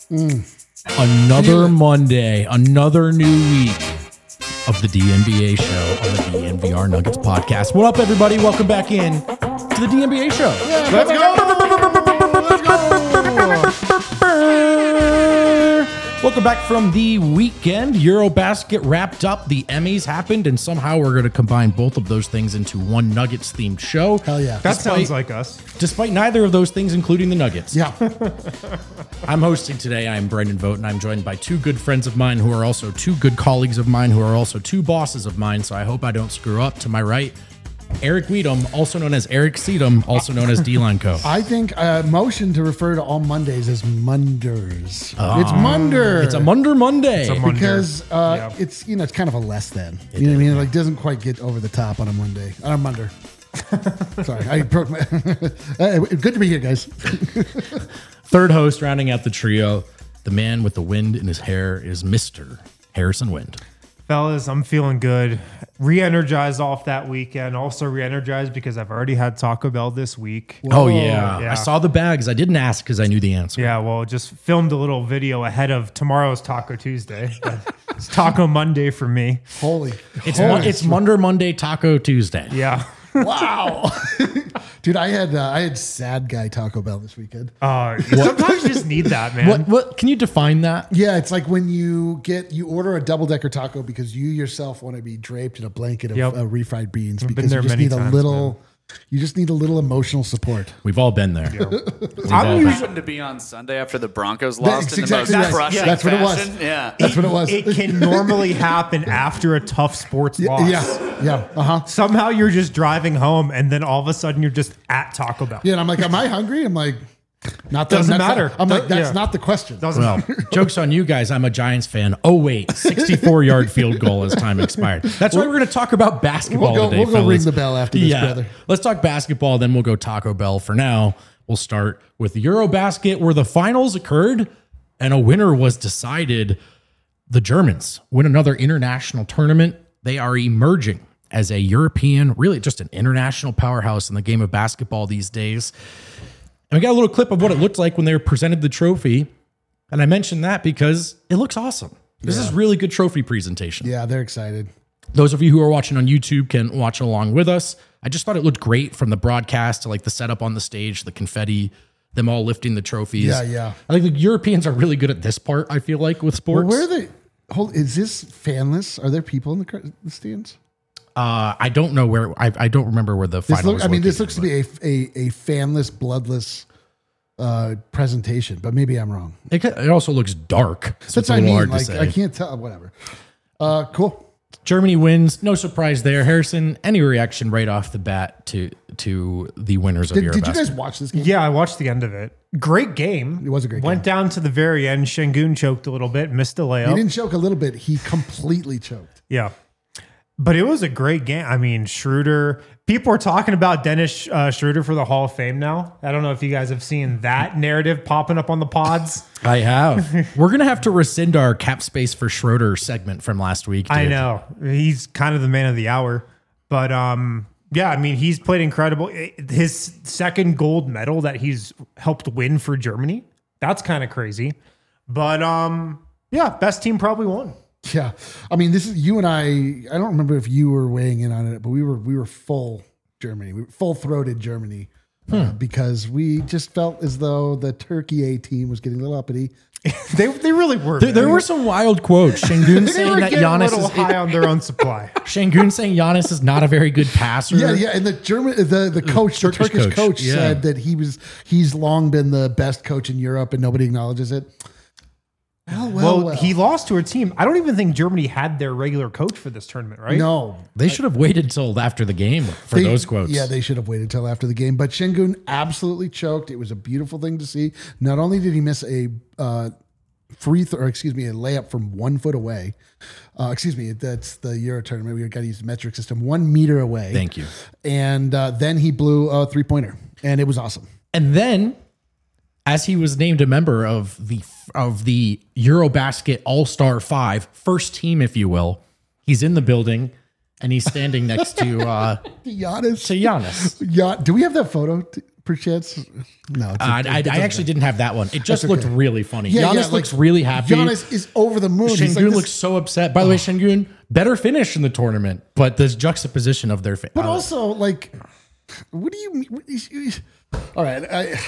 Another Monday, another new week of the DNBA show on the DNVR Nuggets podcast. What up, everybody? Welcome back in to the DNBA show. Yeah, let's Welcome back from the weekend. Eurobasket wrapped up. The Emmys happened, and somehow we're going to combine both of those things into one Nuggets-themed show. Hell yeah. That sounds like us. Despite neither of those things, including the Nuggets. Yeah. I'm hosting today. I'm Brendan Vogt, and I'm joined by two good friends of mine who are also two good colleagues of mine who are also two bosses of mine, so I hope I don't screw up. To my right, Eric Weedham, also known as Eric Seedham, also known as D-Line Co. I think motion to refer to all Mondays as Munders. It's Munder. It's a Munder Monday. It's a Munder. Because Yeah. it's it's kind of a less than. You know what I mean? It like doesn't quite get over the top on a Monday. On a Munder. Sorry, I broke my. Good to be here, guys. Third host rounding out the trio, the man with the wind in his hair is Mr. Harrison Wind. Fellas, I'm feeling good. Re-energized off that weekend. Also re-energized because I've already had Taco Bell this week. Oh, yeah. Yeah. I saw the bags. I didn't ask because I knew the answer. Yeah, well, just filmed a little video ahead of tomorrow's Taco Tuesday. It's Taco Monday for me. Holy. It's Munder Monday, Taco Tuesday. Yeah. Wow. Dude, I had sad guy Taco Bell this weekend. Sometimes you just need that, man. What? Can you define that? Yeah, it's like when you order a double-decker taco because you yourself want to be draped in a blanket of Yep. Refried beans I've been because there you just many need times, a little. You just need a little emotional support. We've all been there. I'm usually Happened to be on Sunday after the Broncos lost That's in the most exactly right. crushing That's what it was. fashion. Yeah. That's what it was. It can normally happen after a tough sports loss. Yeah. Somehow you're just driving home and then all of a sudden you're just at Taco Bell. Yeah, and I'm like, am I hungry? I'm like, not Doesn't that's matter. Not, I'm like, that's Yeah. not the question. Doesn't Well, joke's on you guys. I'm a Giants fan. Oh, wait. 64-yard field goal as time expired. That's why we're going to talk about basketball today, We'll go fellas. ring the bell after this, brother. Let's talk basketball, then we'll go Taco Bell. For now, we'll start with Eurobasket, where the finals occurred and a winner was decided. The Germans win another international tournament. They are emerging as a European, really just an international powerhouse in the game of basketball these days. And we got a little clip of what it looked like when they were presented the trophy. And I mentioned that because it looks awesome. This is really good trophy presentation. Yeah, they're excited. Those of you who are watching on YouTube can watch along with us. I just thought it looked great from the broadcast to like the setup on the stage, the confetti, them all lifting the trophies. Yeah. I think the Europeans are really good at this part, I feel like, with sports. Well, where are they? Is this fanless? Are there people in the stands? I don't know where. I don't remember where the final was This located, looks to be a fanless, bloodless presentation, but maybe I'm wrong. It also looks dark. So That's it's a what I little mean. hard to Like say. I can't tell. Whatever. Cool. Germany wins. No surprise there. Harrison, any reaction right off the bat to the winners of Eurobasket? Did you guys watch this game? Yeah, I watched the end of it. Great game. It was a great Went game. down to the very end. Shengun choked a little bit, missed a He layup. didn't choke a little bit. He completely choked. Yeah. But it was a great game. I mean, Schroeder. People are talking about Dennis Schroeder for the Hall of Fame now. I don't know if you guys have seen that narrative popping up on the pods. I have. We're going to have to rescind our cap space for Schroeder segment from last week. I dude. know. He's kind of the man of the hour. But yeah, I mean, he's played incredible. His second gold medal that he's helped win for Germany. That's kind of crazy. But yeah, best team probably won. Yeah, I mean, this is you and I don't remember if you were weighing in on it, but we were full Germany, we were full-throated Germany because we just felt as though the Turkey A team was getting a little uppity. They really were. There were some wild quotes. Shengun They saying were that getting a Giannis little high on their own supply. Shengun saying Giannis is not a very good passer. Yeah, and the coach, the Turkish Turkish coach yeah. said that he's long been the best coach in Europe, and nobody acknowledges it. Well, He lost to a team. I don't even think Germany had their regular coach for this tournament, right? no. They should have waited till after the game for those quotes. Yeah, they should have waited till after the game. But Shengun absolutely choked. It was a beautiful thing to see. Not only did he miss a a layup from 1 foot away. That's the Euro tournament. We got to use the metric system. 1 meter away. Thank you. And then he blew a 3-pointer, and it was awesome. And then, as he was named a member of the Eurobasket All-Star 5, first team, if you will, he's in the building and he's standing next to Giannis. Giannis. Yeah. Do we have that photo? perchance? No, I actually didn't have that one. It just That's looked okay. really funny. Yeah, Giannis like, looks really happy. Giannis is over the moon. He's Şengün like this- looks so upset. By the way, Şengün, better finish in the tournament, but this juxtaposition of their face. But also, like, what do you mean? All right,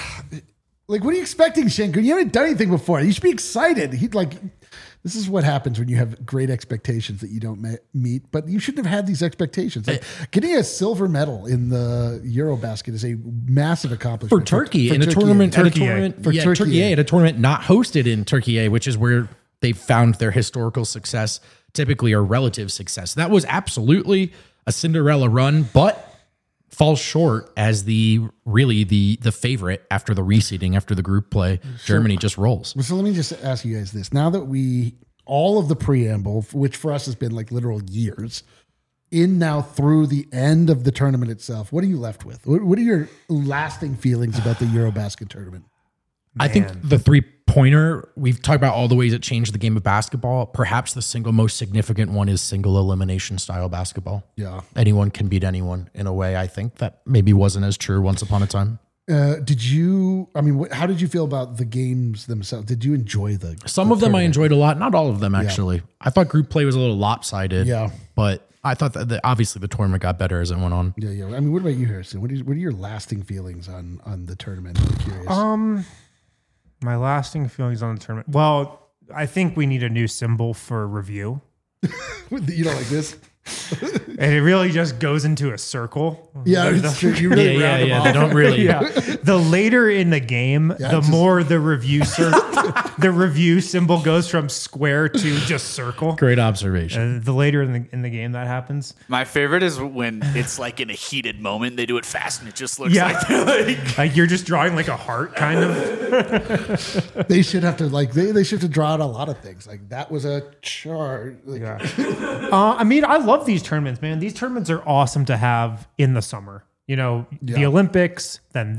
like, what are you expecting, Şengün? You haven't done anything before. You should be excited. This is what happens when you have great expectations that you don't meet. But you shouldn't have had these expectations. Like, getting a silver medal in the Eurobasket is a massive accomplishment for Turkey in a Turkey. tournament, Turkey Turkey at a tournament not hosted in Turkey, which is where they found their historical success, typically or relative success. That was absolutely a Cinderella run, but falls short as the favorite after the reseeding, after the group play. Germany just rolls. So let me just ask you guys this. Now that all of the preamble, which for us has been like literal years, in now through the end of the tournament itself, what are you left with? What are your lasting feelings about the Eurobasket tournament? I think the 3-pointer, we've talked about all the ways it changed the game of basketball. Perhaps the single most significant one is single elimination style basketball. Yeah. Anyone can beat anyone in a way, I think, that maybe wasn't as true once upon a time. How did you feel about the games themselves? Did you enjoy Some of them I enjoyed a lot, not all of them actually. I thought group play was a little lopsided. Yeah. But I thought that obviously the tournament got better as it went on. Yeah. I mean, what about you, Harrison? What are your lasting feelings on the tournament? I'm curious. My lasting feelings on the tournament. Well, I think we need a new symbol for review. You don't like this? And it really just goes into a circle. Yeah, it's true. You really round them off. They don't really. Yeah. The later in the game, the more the review the review symbol goes from square to just circle. Great observation. The later in the game that happens. My favorite is when it's like in a heated moment, they do it fast and it just looks Yeah. like they're like Like you're just drawing like a heart kind of. They should have to they should have to draw out a lot of things. Like that was a chart. Like, Yeah. I mean, I love these tournaments, man. These tournaments are awesome to have in the summer. You know, the Olympics, then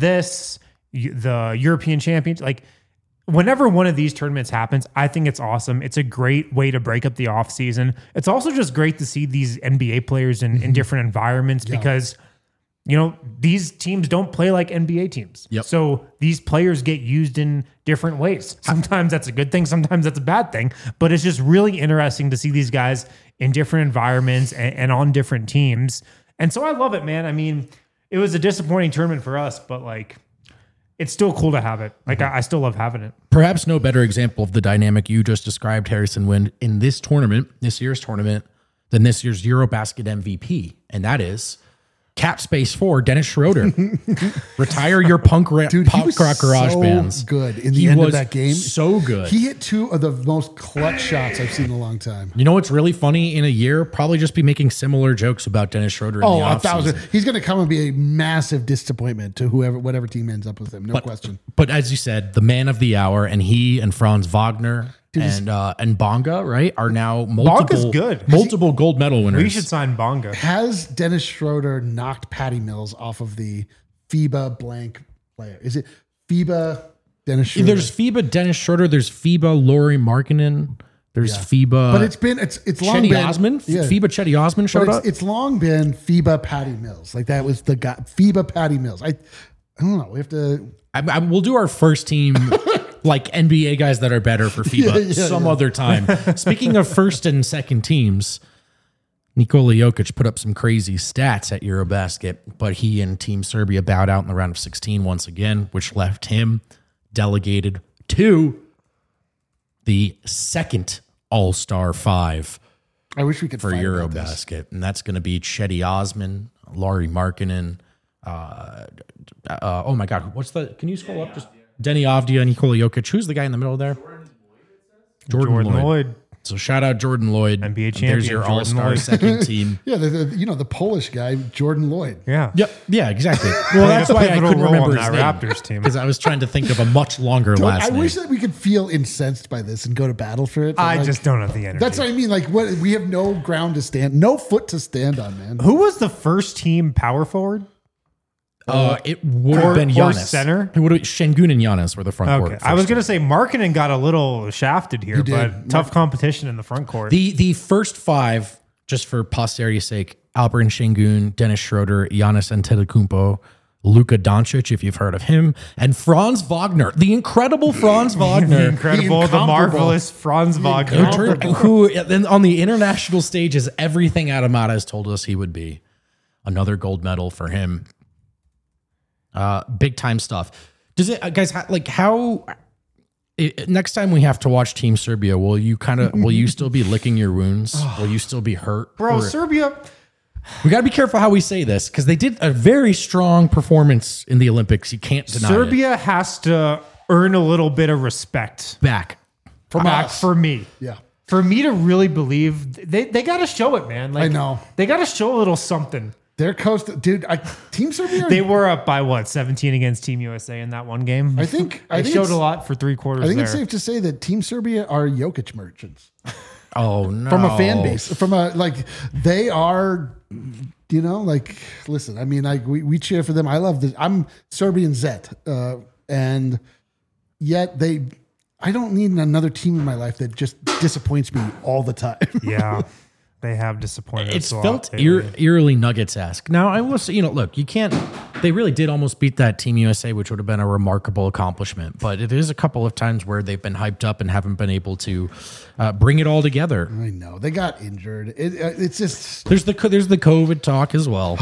the European Champions. Like, whenever one of these tournaments happens, I think it's awesome. It's a great way to break up the off season. It's also just great to see these NBA players in different environments because, you know, these teams don't play like NBA teams. Yep. So these players get used in different ways. Sometimes that's a good thing. Sometimes that's a bad thing. But it's just really interesting to see these guys in different environments and on different teams. And so I love it, man. I mean, it was a disappointing tournament for us, but like, it's still cool to have it. Like, I still love having it. Perhaps no better example of the dynamic you just described, Harrison Wind, in this year's tournament, than this year's Eurobasket MVP. And that is cap space 4, Dennis Schroeder. Retire your punk rock garage so bands. good in the end of that game. So good. He hit 2 of the most clutch shots I've seen in a long time. You know what's really funny? In a year, probably just be making similar jokes about Dennis Schroeder in the offseason. He's going to come and be a massive disappointment to whatever team ends up with him. No question. But as you said, the man of the hour, and he and Franz Wagner and Bonga, right, are now Bonga's good. multiple gold medal winners. We should sign Bonga. Has Dennis Schroeder knocked Patty Mills off of the FIBA blank player? Is it FIBA Dennis Schroeder? There's FIBA Dennis Schroeder. There's FIBA Laurie Markkinen. There's FIBA. But it's long Chetty been Osman. Yeah. FIBA Chetty Osman showed But up. it's long been FIBA Patty Mills. Like that was the guy. FIBA Patty Mills. I don't know. We have to. We'll do our first team, like NBA guys that are better for FIBA some other time. Speaking of first and second teams, Nikola Jokic put up some crazy stats at Eurobasket, but he and Team Serbia bowed out in the round of 16 once again, which left him delegated to the second All-Star 5 I wish we could for fight about this. Eurobasket, and that's going to be Chetty Osman, Laurie Markkinen. Oh my God, can you scroll up? Just Denny Avdia, Nikola Jokic. Who's the guy in the middle there? Jordan Lloyd. So shout out Jordan Lloyd. NBA There's champion your Jordan all-star Lloyd. second team. Yeah, the Polish guy, Jordan Lloyd. Yeah. Yep. Yeah, exactly. Well, that's a why I pivotal couldn't role remember on his that name. Raptors team. Because I was trying to think of a much longer last I name. wish that we could feel incensed by this and go to battle for it. but I like, just don't have the energy. That's what I mean. Like, what we have no ground to stand, no foot to stand on, man. Who was the first team power forward? It would have been or Giannis. center? It would have Şengün and Giannis were the front court. Okay. I was going to say Markkinen got a little shafted here, did. but tough competition in the front court. The first 5, just for posterity's sake, Alperen Şengün, Dennis Schroeder, Giannis Antetokounmpo, Luka Doncic, if you've heard of him, and Franz Wagner, the incredible Franz The Wagner, incredible, the incomparable. marvelous Franz Wagner. who then on the international stage is everything Adam Mata has told us he would be. Another gold medal for him. Big time stuff. Does it, guys? Next time we have to watch Team Serbia, will you still be licking your wounds? Will you still be hurt? Bro, Or- Serbia. we got to be careful how we say this because they did a very strong performance in the Olympics. You can't deny it. Serbia has to earn a little bit of respect Back. From back us. for me. Yeah. For me to really believe, they got to show it, man. Like, I know. They got to show a little something. Their coast, dude. Team Serbia. They were up by what, 17 against Team USA in that one game. I think They showed it's- a lot for 3/4 I think there. it's safe to say that Team Serbia are Jokic merchants Oh no. from a fan base. From a they are. Listen. I mean, we cheer for them. I love this. I'm Serbian Zet, and yet I don't need another team in my life that just disappoints me all the time. Yeah, they have disappointed. It's us a felt lot lately. eerily Nuggets-esque. Now, I will say, look, you can't, they really did almost beat that Team USA, which would have been a remarkable accomplishment. But it is a couple of times where they've been hyped up and haven't been able to bring it all together. I know they got injured. It's just There's the COVID talk as well.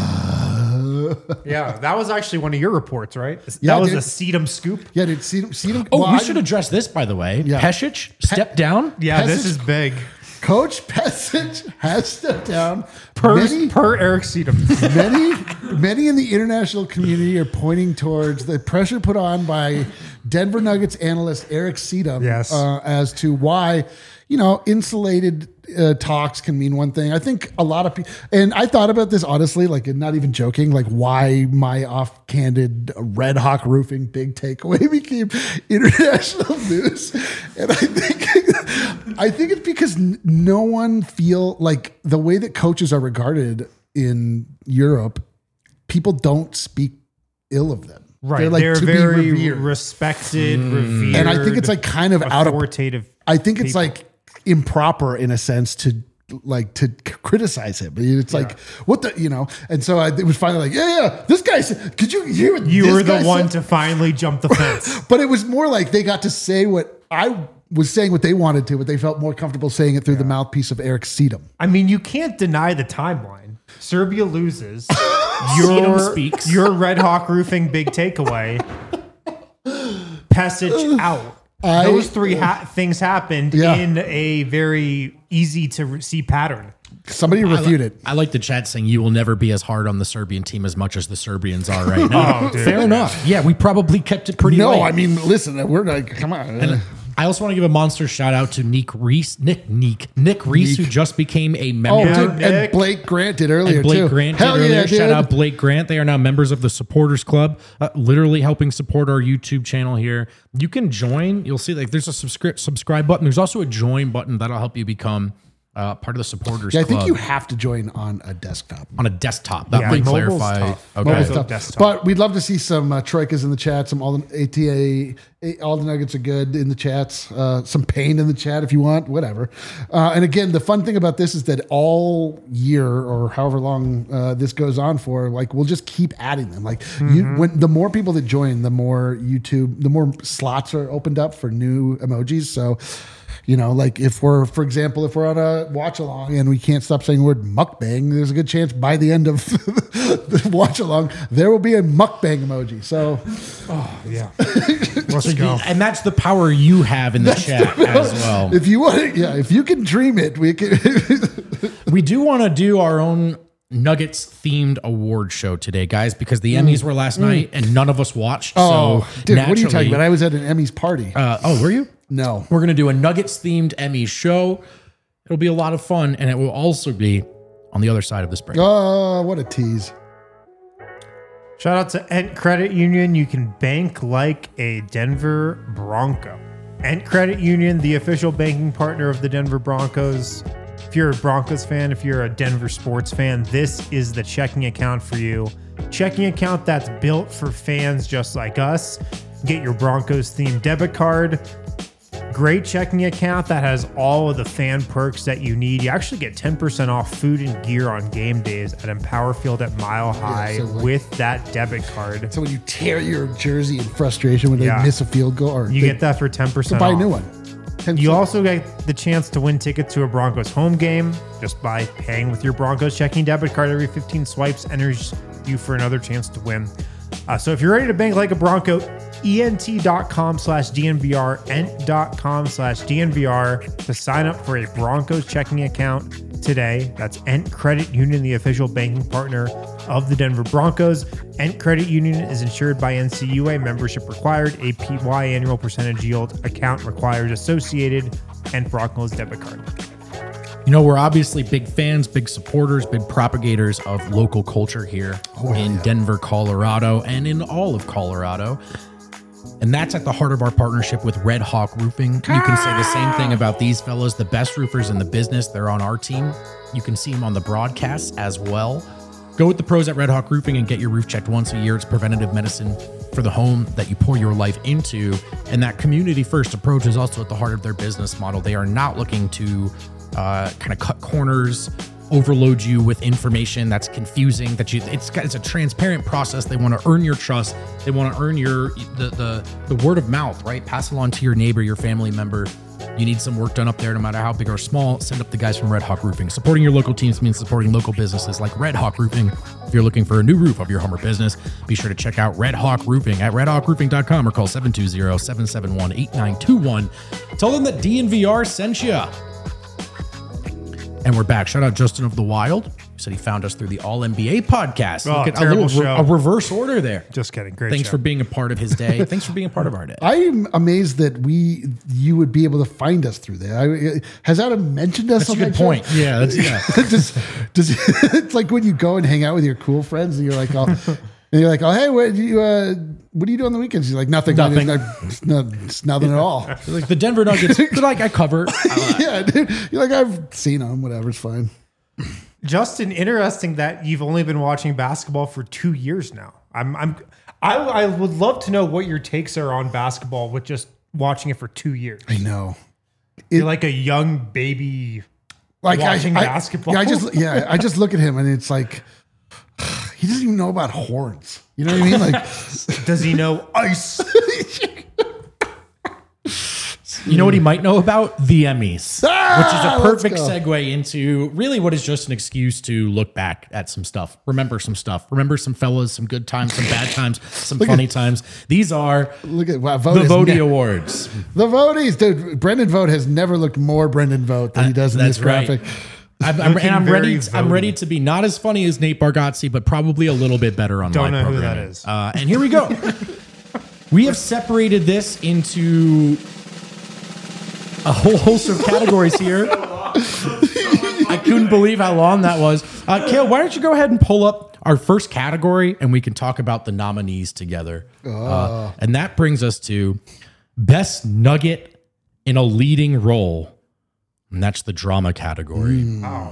Yeah, that was actually one of your reports, right? Yeah, that was dude. a Sedum scoop. yeah. Did see them? Oh, we should address this, by the way. Yeah. Pesic stepped down. Yeah, this Pesic- is big. Coach Pesic has stepped down. Per Many- Eric Sedum. Many in the international community are pointing towards the pressure put on by Denver Nuggets analyst Eric Sedum Yes. as to why, insulated talks can mean one thing. I think a lot of people, and I thought about this honestly, not even joking, why my off-candid Red Hawk Roofing big takeaway became international news. And I think it's because no one feel like the way that coaches are regarded in Europe, people don't speak ill of them. Right. They're They're to very be revered. respected, revered. And I think it's kind of out of, authoritative. I think it's people. improper in a sense to criticize him. It's what the, and so it was finally this guy said, could you hear what You this were the guy one said? to finally jump the fence. But it was more like they got to say what I was saying what they wanted to, but they felt more comfortable saying it through the mouthpiece of Eric Sedum. I mean, you can't deny the timeline. Serbia loses. Sedum speaks. Your Red Hawk Roofing big takeaway. Pesic out. Those three things happened Yeah. in a very easy to see pattern. Somebody refute it. I like the chat saying you will never be as hard on the Serbian team as much as the Serbians are right now. Oh, dude. Fair enough. Yeah, we probably kept it pretty No, light. I mean, listen, we're like, come on. I also want to give a monster shout out to Nick Reese, who just became a Oh, member. dude, and Nick. Blake Grant did earlier And Blake too. Grant did Hell earlier. yeah, dude. Shout out Blake Grant. They are now members of the Supporters Club, literally helping support our YouTube channel here. You can join. You'll see there's a subscribe button. There's also a join button that'll help you become part of the Supporters Yeah, I Club think you have to join on a desktop. on a desktop. That Yeah, might mobile's clarify. tough. Okay. Mobile So stuff. desktop. But we'd love to see some troikas in the chat. Some all the ATA, all the Nuggets are good in the chats. Some pain in the chat if you want, whatever. And again, the fun thing about this is that all year or however long this goes on for, we'll just keep adding them. When the more people that join, the more the more slots are opened up for new emojis. So. If we're, for example, if we're on a watch along and we can't stop saying the word mukbang, there's a good chance by the end of the watch along, there will be a mukbang emoji. So, Yeah. Let's go. And that's the power you have in the chat as well. if you want, if you can dream it, we can. We do want to do our own Nuggets themed award show today, guys, because the Emmys were last night and none of us watched. Oh, so dude, what are you talking naturally- about? I was at an Emmys party. Were you? No. We're going to do a Nuggets themed Emmys show. It'll be a lot of fun, and it will also be on the other side of this break. Oh, what a tease. Shout out to Ent Credit Union. You can bank like a Denver Bronco. Ent Credit Union, the official banking partner of the Denver Broncos. If you're a Broncos fan, if you're a Denver sports fan, this is the checking account for you. Checking account that's built for fans just like us. Get your Broncos themed debit card. great checking account that has all of the fan perks that you need. You actually get 10% off food and gear on game days at Empower Field at Mile High with that debit card. So when you tear your jersey in frustration when they miss a field goal, or you get that for 10% off. Buy a new one. 10%. You also get the chance to win tickets to a Broncos home game just by paying with your Broncos checking debit card. Every 15 swipes enters you for another chance to win. So if you're ready to bank like a Bronco, ent.com/DNVR, ent.com/DNVR to sign up for a Broncos checking account today. That's Ent Credit Union, the official banking partner of the Denver Broncos. Ent Credit Union is insured by NCUA. Membership required. APY annual percentage yield account required. Associated Ent Broncos debit card. You know, we're obviously big fans, big supporters, big propagators of local culture here in Denver, Colorado, and in all of Colorado. And that's at the heart of our partnership with Red Hawk Roofing. You can say the same thing about these fellows, the best roofers in the business. They're on our team. You can see them on the broadcasts as well. Go with the pros at Red Hawk Roofing and get your roof checked once a year. It's preventative medicine for the home that you pour your life into. And that community first approach is also at the heart of their business model. They are not looking to kind of cut corners, overload you with information that's confusing. It's a transparent process. They want to earn your trust. They want to earn the word of mouth, right? Pass it on to your neighbor, your family member. You need some work done up there, no matter how big or small. Send up the guys from Red Hawk Roofing. Supporting your local teams means supporting local businesses like Red Hawk Roofing. If you're looking for a new roof of your home or business, be sure to check out Red Hawk Roofing at redhawkroofing.com or call 720-771-8921. Tell them that DNVR sent you. And we're back. Shout out Justin of the Wild. He said he found us through the All NBA podcast. Oh, Look at terrible show. a reverse order there. Just kidding. Great Thanks show. for being a part of his day. Thanks for being a part of our day. I'm amazed that you would be able to find us through there. Has Adam mentioned us? That's a good point. Yeah, Does it's like when you go and hang out with your cool friends and you're like, oh, hey, what do you do on the weekends? He's like, nothing. It's nothing at all. like the Denver Nuggets. They're like, I cover. Yeah, dude. You're like, I've seen them. Whatever, it's fine. Justin, interesting that you've only been watching basketball for 2 years now. I would love to know what your takes are on basketball with just watching it for 2 years. I know. You're like a young baby watching basketball. I just look at him and it's like he doesn't even know about horns. You know what I mean? Like, does he know ice? You know what he might know about? The Emmys, which is a perfect let's go. segue into really what is just an excuse to look back at some stuff, remember some stuff, remember some fellas, some good times, some bad times, some funny times. These are look at wow, the Vody Awards. The Vodies, dude. Brendan Vogt has never looked more Brendan Vogt than he does in this graphic. I'm ready to be not as funny as Nate Bargatze, but probably a little bit better on Don't live know who that programming. is. And here we go. We have separated this into a whole host of categories here. I couldn't believe how long that was. Kale, why don't you go ahead and pull up our first category and we can talk about the nominees together. And that brings us to Best Nugget in a Leading Role. And that's the drama category. Wow.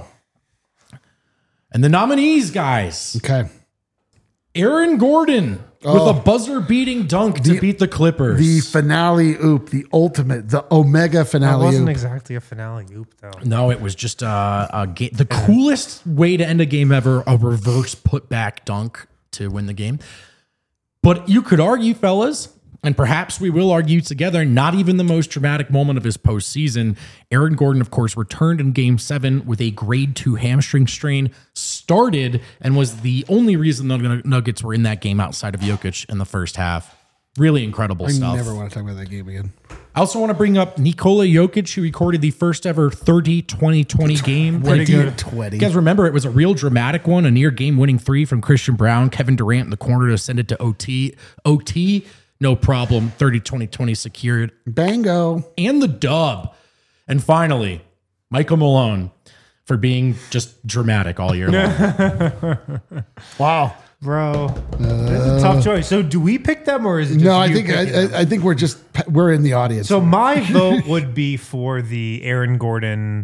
And the nominees, guys. Okay. Aaron Gordon with a buzzer-beating dunk to beat the Clippers. The finale oop, the ultimate, the Omega That finale wasn't oop. exactly a finale oop, though. No, it was just a game. The coolest way to end a game ever, a reverse putback dunk to win the game. But you could argue, fellas, and perhaps we will argue together, not even the most dramatic moment of his postseason. Aaron Gordon, of course, returned in Game 7 with a grade 2 hamstring strain, started, and was the only reason the Nuggets were in that game outside of Jokic in the first half. Really incredible stuff. I never want to talk about that game again. I also want to bring up Nikola Jokic, who recorded the first ever 30-20-20 game. Pretty Do you- good. 20. You guys remember it was a real dramatic one, a near game-winning three from Christian Brown, Kevin Durant in the corner to send it to OT. No problem. 30-20-20 secured. Bango. And the dub. And finally, Michael Malone for being just dramatic all year long. Wow. Bro, that's a tough choice. So do we pick them or is it just No, I you think picking them? I think we're in the audience. So my vote would be for the Aaron Gordon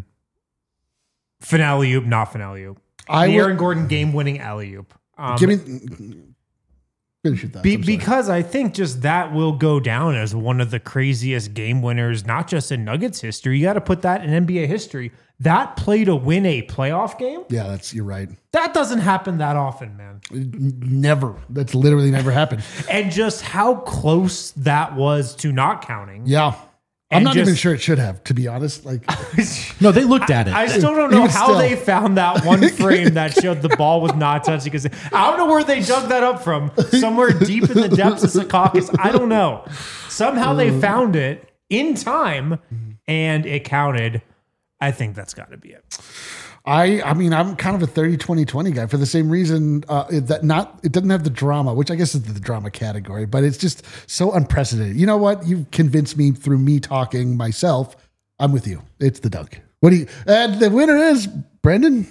finale oop, not finale oop. I The would- Aaron Gordon game-winning alley oop. give me Finish your thoughts. I'm sorry. Because I think just that will go down as one of the craziest game winners, not just in Nuggets history. You got to put that in NBA history. That play to win a playoff game, Yeah, you're right. that doesn't happen that often, man. Never. That's literally never happened. And just how close that was to not counting. Yeah. I'm And not just- even sure it should have, to be honest. Like, No, they looked at it. I still don't know Even how still. they found that one frame that showed the ball was not touching. Because I don't know where they dug that up from. Somewhere deep in the depths of Secaucus. I don't know. Somehow they found it in time and it counted. I think that's got to be it. I mean, I'm kind of a 30-20-20 guy for the same reason it doesn't have the drama, which I guess is the drama category, but it's just so unprecedented. You know what? You've convinced me through me talking myself. I'm with you. It's the dunk. And the winner is Brendan.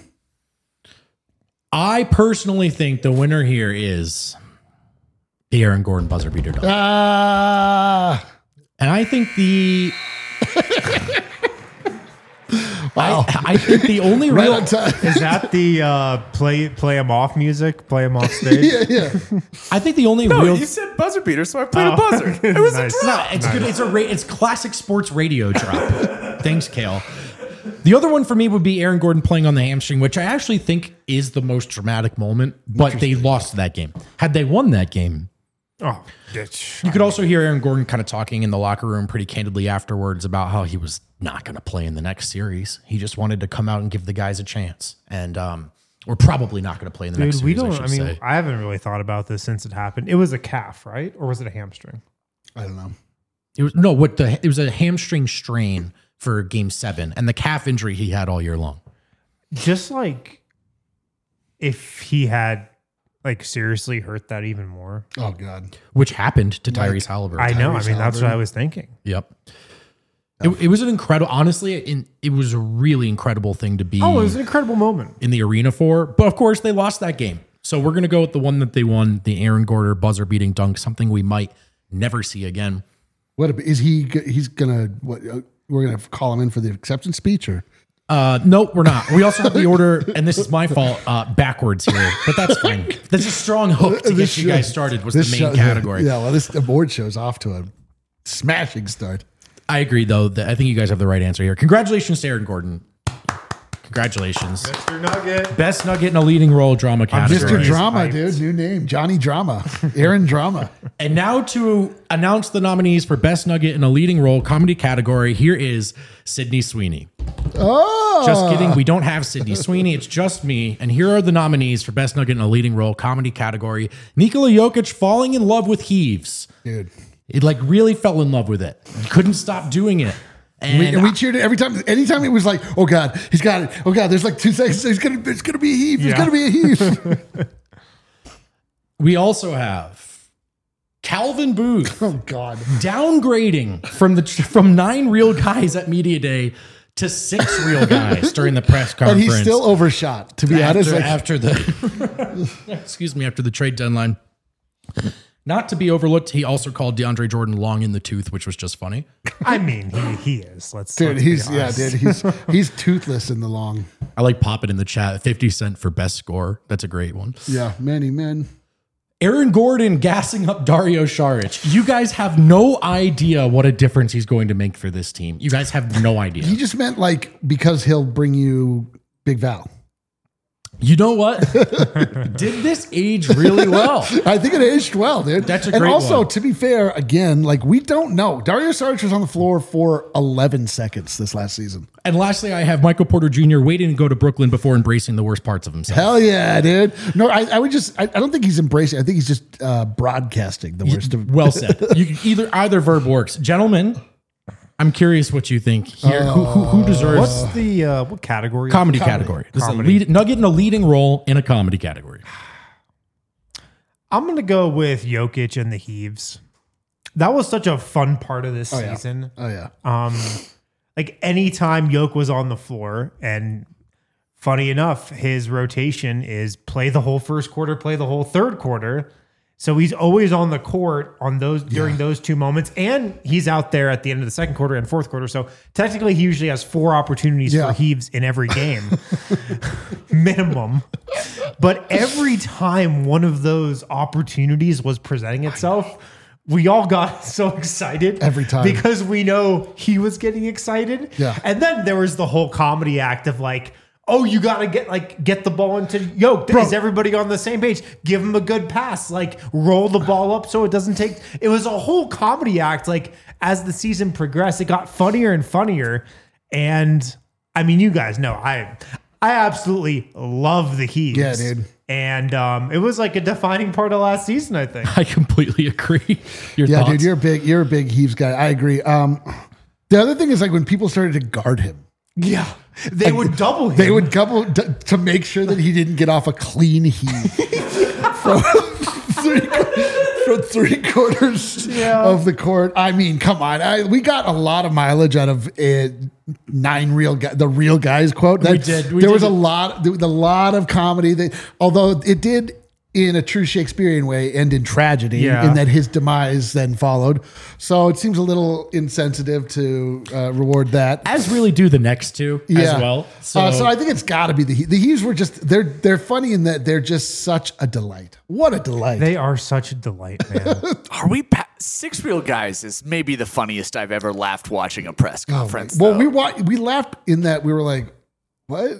I personally think the winner here is the Aaron Gordon buzzer beater dunk. And I think I think the only Right real on time. Is that the play him off music? Play him off stage? Yeah. I think the only No, real you said buzzer beater, so I played a buzzer. It was Nice. a drop. it's good. It's classic sports radio drop. Thanks, Kale. The other one for me would be Aaron Gordon playing on the hamstring, which I actually think is the most dramatic moment. But they lost that game. Had they won that game, Oh, bitch. you could also hear Aaron Gordon kind of talking in the locker room pretty candidly afterwards about how he was not going to play in the next series. He just wanted to come out and give the guys a chance, and we're probably not going to play in the next Dude, we series. don't. I mean, I haven't really thought about this since it happened. It was a calf, right? Or was it a hamstring? I don't know. it was a hamstring strain for Game 7, and the calf injury he had all year long. Just like if he had like seriously hurt that even more. Oh, God. Which happened to Tyrese Halliburton. I know. I Tyrese mean, that's what Halliburton. I was thinking. Yep. It was an incredible, honestly, it was a really incredible thing to be Oh, it was an incredible moment. in the arena for. But of course, they lost that game. So we're going to go with the one that they won, the Aaron Gordon buzzer beating dunk, something we might never see again. He's going to, we're going to call him in for the acceptance speech or? No, we're not. We also have the order, and this is my fault, backwards here, but that's fine. That's a strong hook to get you guys started was the main category. Yeah, well, this award show's off to a smashing start. I agree, though. That I think you guys have the right answer here. Congratulations to Aaron Gordon. Congratulations. Mr. Nugget. Best Nugget in a leading role drama category. Mr. Drama, hyped. dude. New name. Johnny Drama. Aaron Drama. And now to announce the nominees for Best Nugget in a leading role comedy category, here is Sydney Sweeney. Oh. Just kidding. We don't have Sydney Sweeney. It's just me. And here are the nominees for Best Nugget in a leading role comedy category. Nikola Jokic falling in love with heaves. Dude. It like really fell in love with it. Couldn't stop doing it. And we cheered it every time. Anytime it was like, oh God, he's got it. Oh God, there's like 2 seconds. It's gonna be a heave. It's Yeah. gonna be a heave. we also have Calvin Booth Oh God. downgrading from 9 real guys at Media Day to 6 real guys during the press And conference. he's still overshot, to be honest. after the excuse me, after the trade deadline. Not to be overlooked, he also called DeAndre Jordan long in the tooth, which was just funny. I mean, he is. Let's Dude, be honest. he's toothless in the long. I like Pop It in the chat. 50 Cent for best score. That's a great one. Yeah, many men. Aaron Gordon gassing up Dario Saric. You guys have no idea what a difference he's going to make for this team. You guys have no idea. He just meant like because he'll bring you Big Val. You know what? Did this age really well? I think it aged well, dude. That's a and great also, one. to be fair, again, like we don't know. Dario Saric was on the floor for 11 seconds this last season. And lastly, I have Michael Porter Jr. waiting to go to Brooklyn before embracing the worst parts of himself. Hell yeah, dude. No, I don't think he's embracing. I think he's just broadcasting the worst of. Well said. You can either verb works. Gentlemen, I'm curious what you think here. Who deserves What's the what category? comedy category? This Comedy. is a Nugget in a leading role in a comedy category. I'm gonna go with Jokic and the Heaves. That was such a fun part of this yeah. season. Oh yeah. Like anytime Yoke was on the floor, and funny enough, his rotation is play the whole first quarter, play the whole third quarter. So he's always on the court on those during those two moments, and he's out there at the end of the second quarter and fourth quarter. So technically, he usually has 4 opportunities for heaves in every game, minimum. But every time one of those opportunities was presenting itself, we all got so excited every time because we know he was getting excited. Yeah, and then there was the whole comedy act of like, oh, you got to get the ball into Yoke. Is everybody on the same page? Give him a good pass. Like, roll the ball up so it doesn't take... It was a whole comedy act. Like, as the season progressed, it got funnier and funnier. And, I mean, you guys know, I absolutely love the Heaves. Yeah, dude. And it was like a defining part of last season, I think. I completely agree. Your thoughts? Dude, you're a big Heaves guy. I agree. The other thing is like when people started to guard him. Yeah. They would double him. They would double to make sure that he didn't get off a clean heave from 3/4 of the court. I mean, come on. We got a lot of mileage out of the real guys quote. We did. There was a lot of comedy. Although it did, in a true Shakespearean way, end in tragedy, in that his demise then followed. So it seems a little insensitive to reward that. As really do the next two as well. So I think it's got to be the Heaves were just they're funny in that they're just such a delight. What a delight! They are such a delight, man. Are we? Six Real Guys is maybe the funniest I've ever laughed watching a press conference. Well, we laughed in that we were like, what?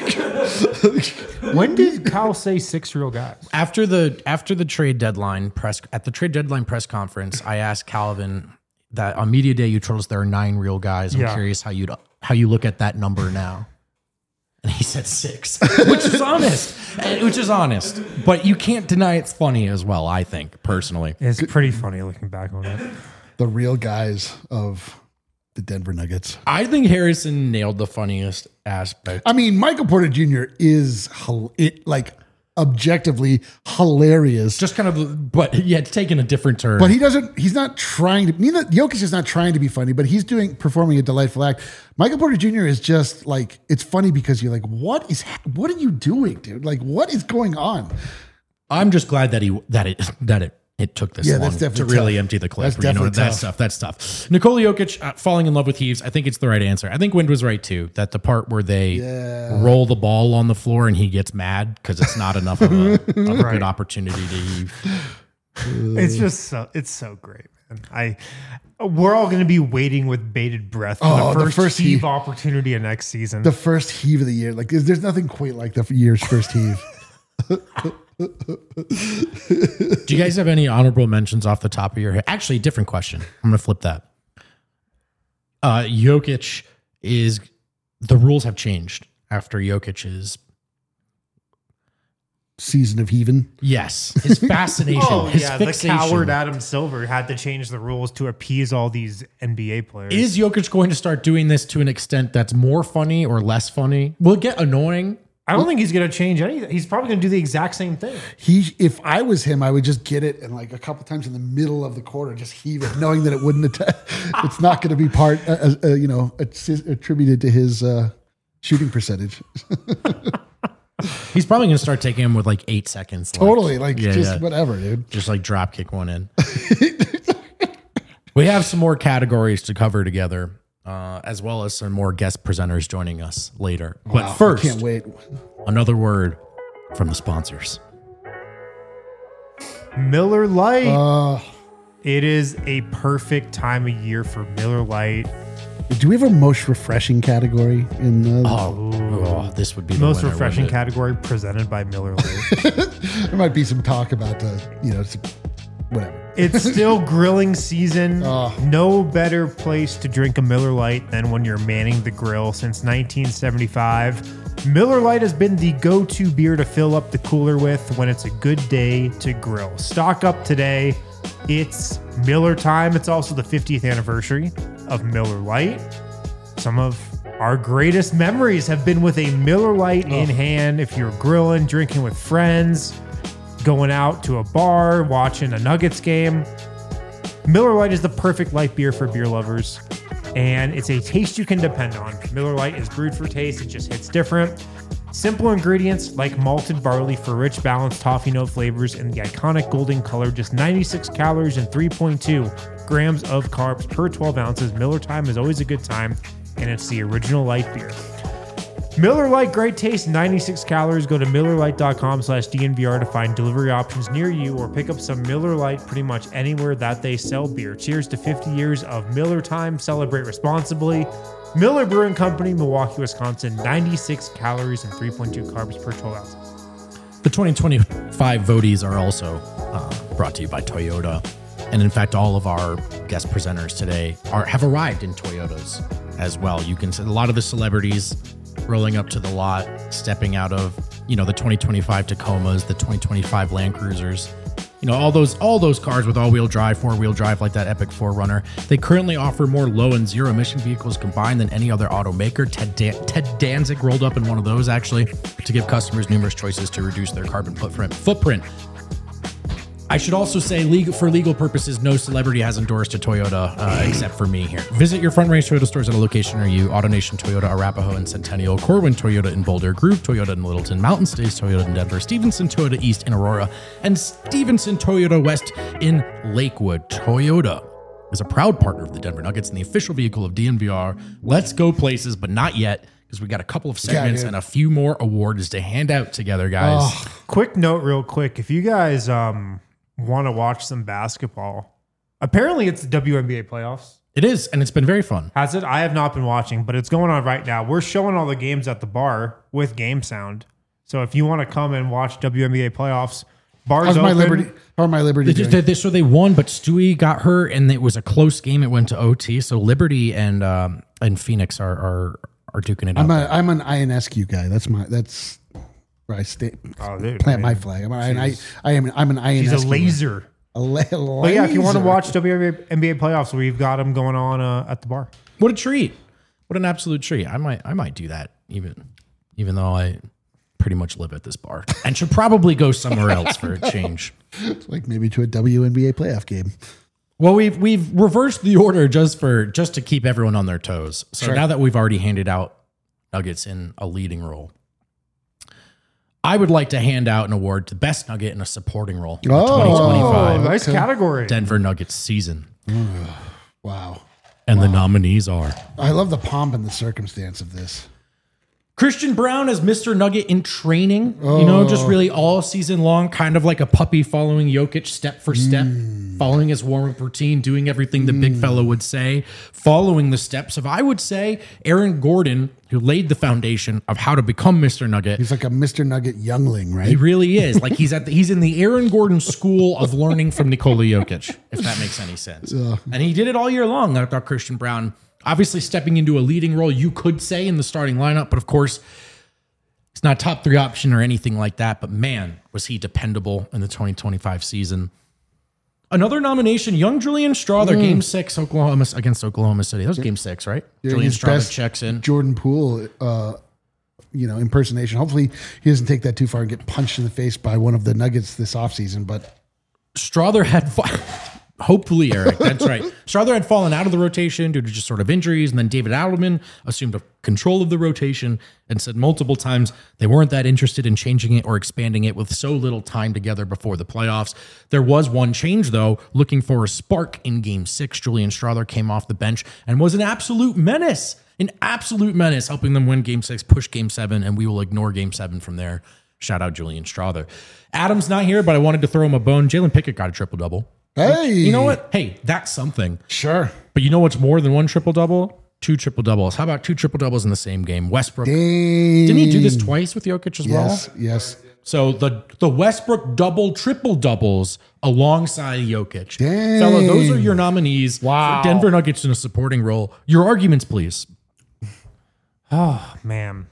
When did Kyle say 6 real guys? After the trade deadline press conference, I asked Calvin that on media day you told us there are 9 real guys. I'm curious how you look at that number now. And he said 6, which is honest. But you can't deny it's funny as well, I think, personally. It's pretty funny looking back on it. The real guys of the Denver Nuggets. I think Harrison nailed the funniest aspect. I mean, Michael Porter Jr. is objectively hilarious. Just kind of, but it's taken a different turn. But he's not trying to, Jokic is not trying to be funny, but he's performing a delightful act. Michael Porter Jr. is just like, it's funny because you're like, what are you doing, dude? Like, what is going on? I'm just glad that it took this long to really empty the clip. That's tough. Nikola Jokic falling in love with Heaves. I think it's the right answer. I think Wind was right too. That the part where they roll the ball on the floor and he gets mad because it's not enough of a good opportunity to heave. It's so great, man. We're all going to be waiting with bated breath for the first heave opportunity of next season. The first heave of the year. Like there's nothing quite like the year's first heave. Do you guys have any honorable mentions off the top of your head? Actually, different question. I'm going to flip that. Jokic the rules have changed after Jokic's season of heaving. Yes. His fascination, his fixation. The coward Adam Silver had to change the rules to appease all these NBA players. Is Jokic going to start doing this to an extent that's more funny or less funny? Will it get annoying? I don't think he's going to change anything. He's probably going to do the exact same thing. If I was him, I would just get it and like a couple times in the middle of the quarter, just heave it, knowing that it wouldn't it's not going to be attributed to his shooting percentage. He's probably going to start taking him with like 8 seconds. Totally. Whatever, dude. Just like drop kick one in. We have some more categories to cover together. As well as some more guest presenters joining us later. But first, I can't wait. Another word from the sponsors. Miller Lite. It is a perfect time of year for Miller Lite. Do we have a most refreshing category in the? This would be the most winner, refreshing category presented by Miller Lite. There might be some talk about whatever. It's still grilling season. No better place to drink a Miller Lite than when you're manning the grill. Since 1975, Miller Lite has been the go-to beer to fill up the cooler with when it's a good day to grill. Stock up today. It's Miller time. It's also the 50th anniversary of Miller Lite. Some of our greatest memories have been with a Miller Lite in hand. If you're grilling, drinking with friends, going out to a bar, watching a Nuggets game. Miller Lite is the perfect light beer for beer lovers, and it's a taste you can depend on. Miller Lite is brewed for taste. It just hits different. Simple ingredients like malted barley for rich, balanced toffee note flavors and the iconic golden color. Just 96 calories and 3.2 grams of carbs per 12 ounces. Miller Time is always a good time, and it's the original light beer. Miller Lite, great taste, 96 calories. Go to MillerLite.com/DNVR to find delivery options near you or pick up some Miller Lite pretty much anywhere that they sell beer. Cheers to 50 years of Miller Time. Celebrate responsibly. Miller Brewing Company, Milwaukee, Wisconsin, 96 calories and 3.2 carbs per 12 ounces. The 2025 voties are also brought to you by Toyota. And in fact, all of our guest presenters today have arrived in Toyotas as well. You can see a lot of the celebrities rolling up to the lot, stepping out of, the 2025 Tacomas, the 2025 Land Cruisers, all those cars with all-wheel drive, four-wheel drive, like that epic 4Runner. They currently offer more low and zero emission vehicles combined than any other automaker. Ted Danzig rolled up in one of those, actually, to give customers numerous choices to reduce their carbon footprint. I should also say, for legal purposes, no celebrity has endorsed a Toyota except for me here. Visit your Front Range Toyota stores at a location near you. AutoNation Toyota, Arapahoe and Centennial, Corwin Toyota in Boulder, Groove Toyota in Littleton, Mountain States Toyota in Denver, Stevenson Toyota East in Aurora, and Stevenson Toyota West in Lakewood. Toyota is a proud partner of the Denver Nuggets and the official vehicle of DNVR. Let's go places, but not yet, because we got a couple of segments and a few more awards to hand out together, guys. Quick note real quick. If you guys want to watch some basketball, apparently it's the WNBA playoffs. It is, and it's been very fun. Has it? I have not been watching, but it's going on right now. We're showing all the games at the bar with Game Sound. So if you want to come and watch WNBA playoffs, bars How's open. my Liberty doing? So they won, but Stewie got hurt, and it was a close game. It went to OT. So Liberty and Phoenix are duking it out. I'm an INSQ guy. That's where I stay. Plant my flag. I'm an INSQ. He's a laser. But yeah, if you want to watch WNBA playoffs, we've got them going on at the bar. What a treat! What an absolute treat! I might do that even though I pretty much live at this bar and should probably go somewhere else for a change. Like maybe to a WNBA playoff game. Well, we've reversed the order just to keep everyone on their toes. So now that we've already handed out Nuggets in a leading role, I would like to hand out an award to Best Nugget in a supporting role in the 2025 nice category. Denver Nuggets season. Wow. And the nominees are... I love the pomp and the circumstance of this. Christian Braun as Mr. Nugget in training, just really all season long, kind of like a puppy following Jokic step for step, following his warm-up routine, doing everything the big fella would say, following the steps of, I would say, Aaron Gordon, who laid the foundation of how to become Mr. Nugget. He's like a Mr. Nugget youngling, right? He really is. Like he's in the Aaron Gordon school of learning from Nikola Jokic, if that makes any sense. And he did it all year long. I thought Christian Braun, obviously stepping into a leading role, you could say, in the starting lineup, but of course, it's not top 3 option or anything like that. But man, was he dependable in the 2025 season. Another nomination, young Julian Strawther, Game 6 against Oklahoma City. That was Game 6, right? Yeah, Julian his Strawther best checks in. Jordan Poole, impersonation. Hopefully he doesn't take that too far and get punched in the face by one of the Nuggets this offseason. But Strawther had... Hopefully, Eric. That's right. Strawther had fallen out of the rotation due to just sort of injuries, and then David Adelman assumed control of the rotation and said multiple times they weren't that interested in changing it or expanding it with so little time together before the playoffs. There was one change, though, looking for a spark in Game 6. Julian Strawther came off the bench and was an absolute menace, helping them win Game 6, push Game 7, and we will ignore Game 7 from there. Shout out Julian Strawther. Adam's not here, but I wanted to throw him a bone. Jalen Pickett got a triple-double. Hey, you know what? Hey, that's something. Sure. But you know what's more than one triple-double? 2 triple-doubles. How about 2 triple-doubles in the same game? Westbrook. Dang. Didn't he do this twice with Jokic as well? Yes. So the Westbrook triple-doubles alongside Jokic. Dang. Fella, those are your nominees Wow. for Denver Nuggets in a supporting role. Your arguments, please. Oh, man.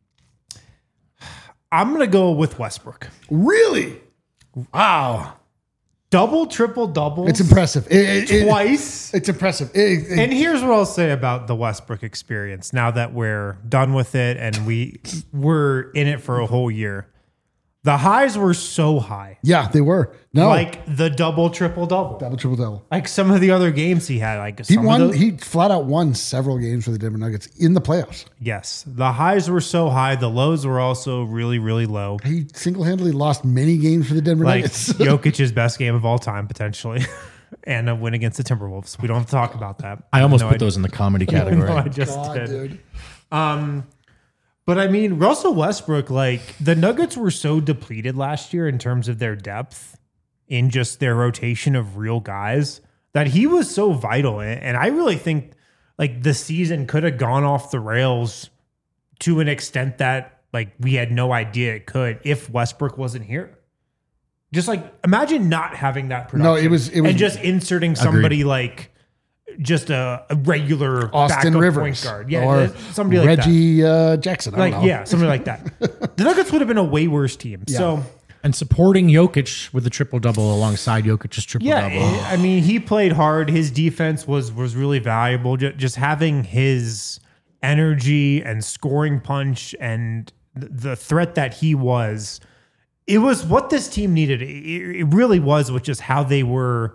I'm going to go with Westbrook. Really? Wow. Double, triple, doubles. It's impressive. Twice. It's impressive. And here's what I'll say about the Westbrook experience now that we're done with it and we're in it for a whole year. The highs were so high. Yeah, they were. No, Like the double, triple, double. triple double. Like some of the other games he had. Like He some won. Of those, He flat out won several games for the Denver Nuggets in the playoffs. yes. The highs were so high. The lows were also really, really low. He single-handedly lost many games for the Denver Like Nuggets. Jokic's best game of all time, potentially. And a win against the Timberwolves. We don't have to talk about that. I almost No, put those in the comedy category. No, I just God, did. dude. But I mean, Russell Westbrook, like the Nuggets were so depleted last year in terms of their depth in just their rotation of real guys that he was so vital. And I really think like the season could have gone off the rails to an extent that like we had no idea it could if Westbrook wasn't here. Just like imagine not having that production. No, it was and just inserting somebody like just a regular Austin backup Rivers point guard. Yeah, or somebody like that. Reggie Jackson. I Like, don't know. yeah, something like that. The Nuggets would have been a way worse team. So, And supporting Jokic with the triple-double alongside Jokic's yeah, triple-double. I mean, he played hard. His defense was really valuable. Just having his energy and scoring punch and the threat that he was, it was what this team needed. It really was, which is how they were,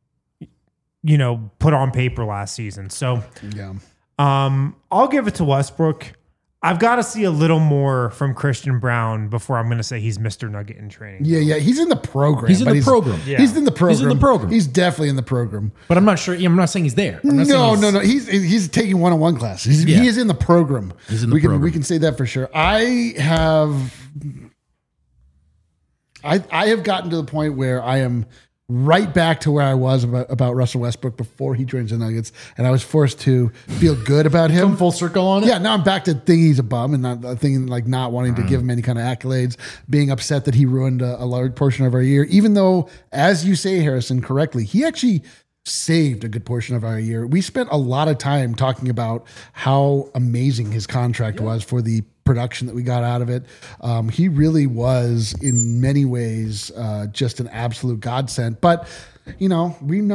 put on paper last season. So, Yeah. I'll give it to Westbrook. I've got to see a little more from Christian Brown before I'm going to say he's Mr. Nugget in training. Yeah. He's in the program. He's in but the program. Yeah. He's in the program. He's in the program. He's definitely in the program. But I'm not sure. I'm not saying he's there. I'm not saying No. He's taking one-on-one classes. He is in the program. He's in the we program. We can say that for sure. I have gotten to the point where I am right back to where I was about Russell Westbrook before he joins the Nuggets, and I was forced to feel good about him. Come full circle on it. Yeah, now I'm back to thinking he's a bum and not thinking like not wanting to give him any kind of accolades, being upset that he ruined a large portion of our year, even though, as you say, Harrison, correctly, he actually saved a good portion of our year. We spent a lot of time talking about how amazing his contract was for the production that we got out of it. He really was in many ways just an absolute godsend. But we know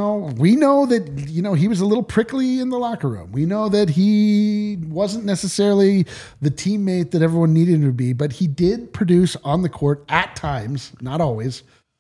that he was a little prickly in the locker room. We know that he wasn't necessarily the teammate that everyone needed him to be, but he did produce on the court at times, not always.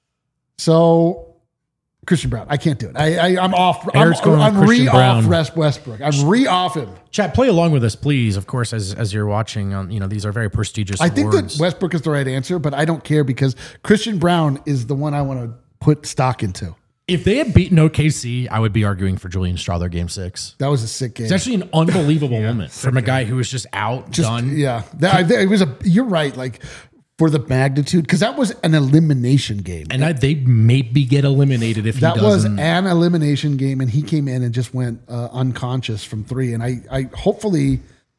So Christian Brown, I can't do it. I'm off. Eric's going with I'm Christian Brown. off Westbrook. I'm off him. Chat, play along with us, please. Of course, as you're watching, these are very prestigious I think awards. that Westbrook is the right answer, but I don't care because Christian Brown is the one I want to put stock into. If they had beaten OKC, I would be arguing for Julian Strawther Game 6. That was a sick game. It's actually an unbelievable moment from a guy who was just out, done. Yeah, it was you're right. Like for the magnitude, because that was an elimination game. And they maybe get eliminated if That he was doesn't. an elimination game, and he came in and just went unconscious from three. And I hopefully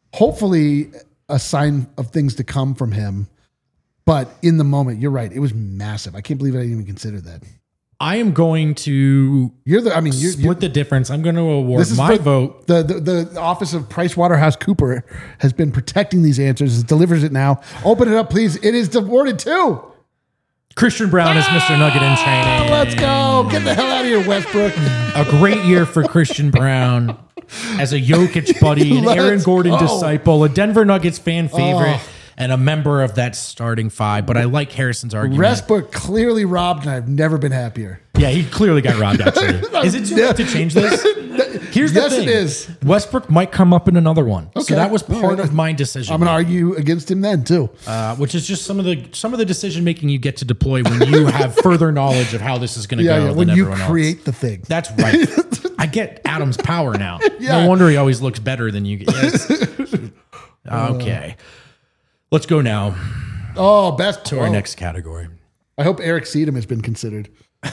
a sign of things to come from him. But in the moment, you're right. It was massive. I can't believe I didn't even consider that. I am going to You're split the difference. I'm going to award my for vote. The office of PricewaterhouseCooper has been protecting these answers. It delivers it now. Open it up, please. It is awarded to Christian Brown is Mr. Nugget in training. Let's go. Get the hell out of here, Westbrook. A great year for Christian Brown as a Jokic buddy, an Let's Aaron Gordon go. disciple, a Denver Nuggets fan favorite, and a member of that starting five. But I like Harrison's argument. Westbrook clearly robbed, and I've never been happier. Yeah, he clearly got robbed, actually. Is it too late to change this? Here's the Yes, thing. it is. Westbrook might come up in another one. Okay. So that was All part right. of my decision. I'm going to argue against him then, too. Which is just some of the decision making you get to deploy when you have further knowledge of how this is going to go when than you everyone create else. the thing. That's right. I get Adam's power now. Yeah. No wonder he always looks better than you. Yes. Okay. Let's go now Best to our next category. I hope Eric Seedham has been considered.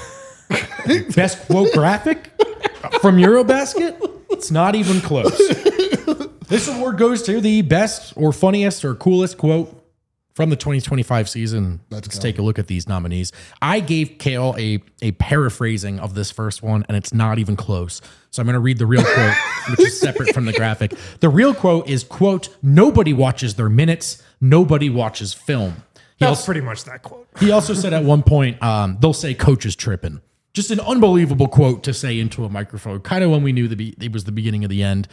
Best quote graphic from Eurobasket? It's not even close. This award goes to the best or funniest or coolest quote from the 2025 season. Let's take a look at these nominees. I gave Kale a paraphrasing of this first one, and it's not even close. So I'm going to read the real quote, which is separate from the graphic. The real quote is, quote, "Nobody watches their minutes. Nobody watches film." That's pretty much that quote. He also said at one point, they'll say coach is tripping. Just an unbelievable quote to say into a microphone, kind of when we knew it was the beginning of the end.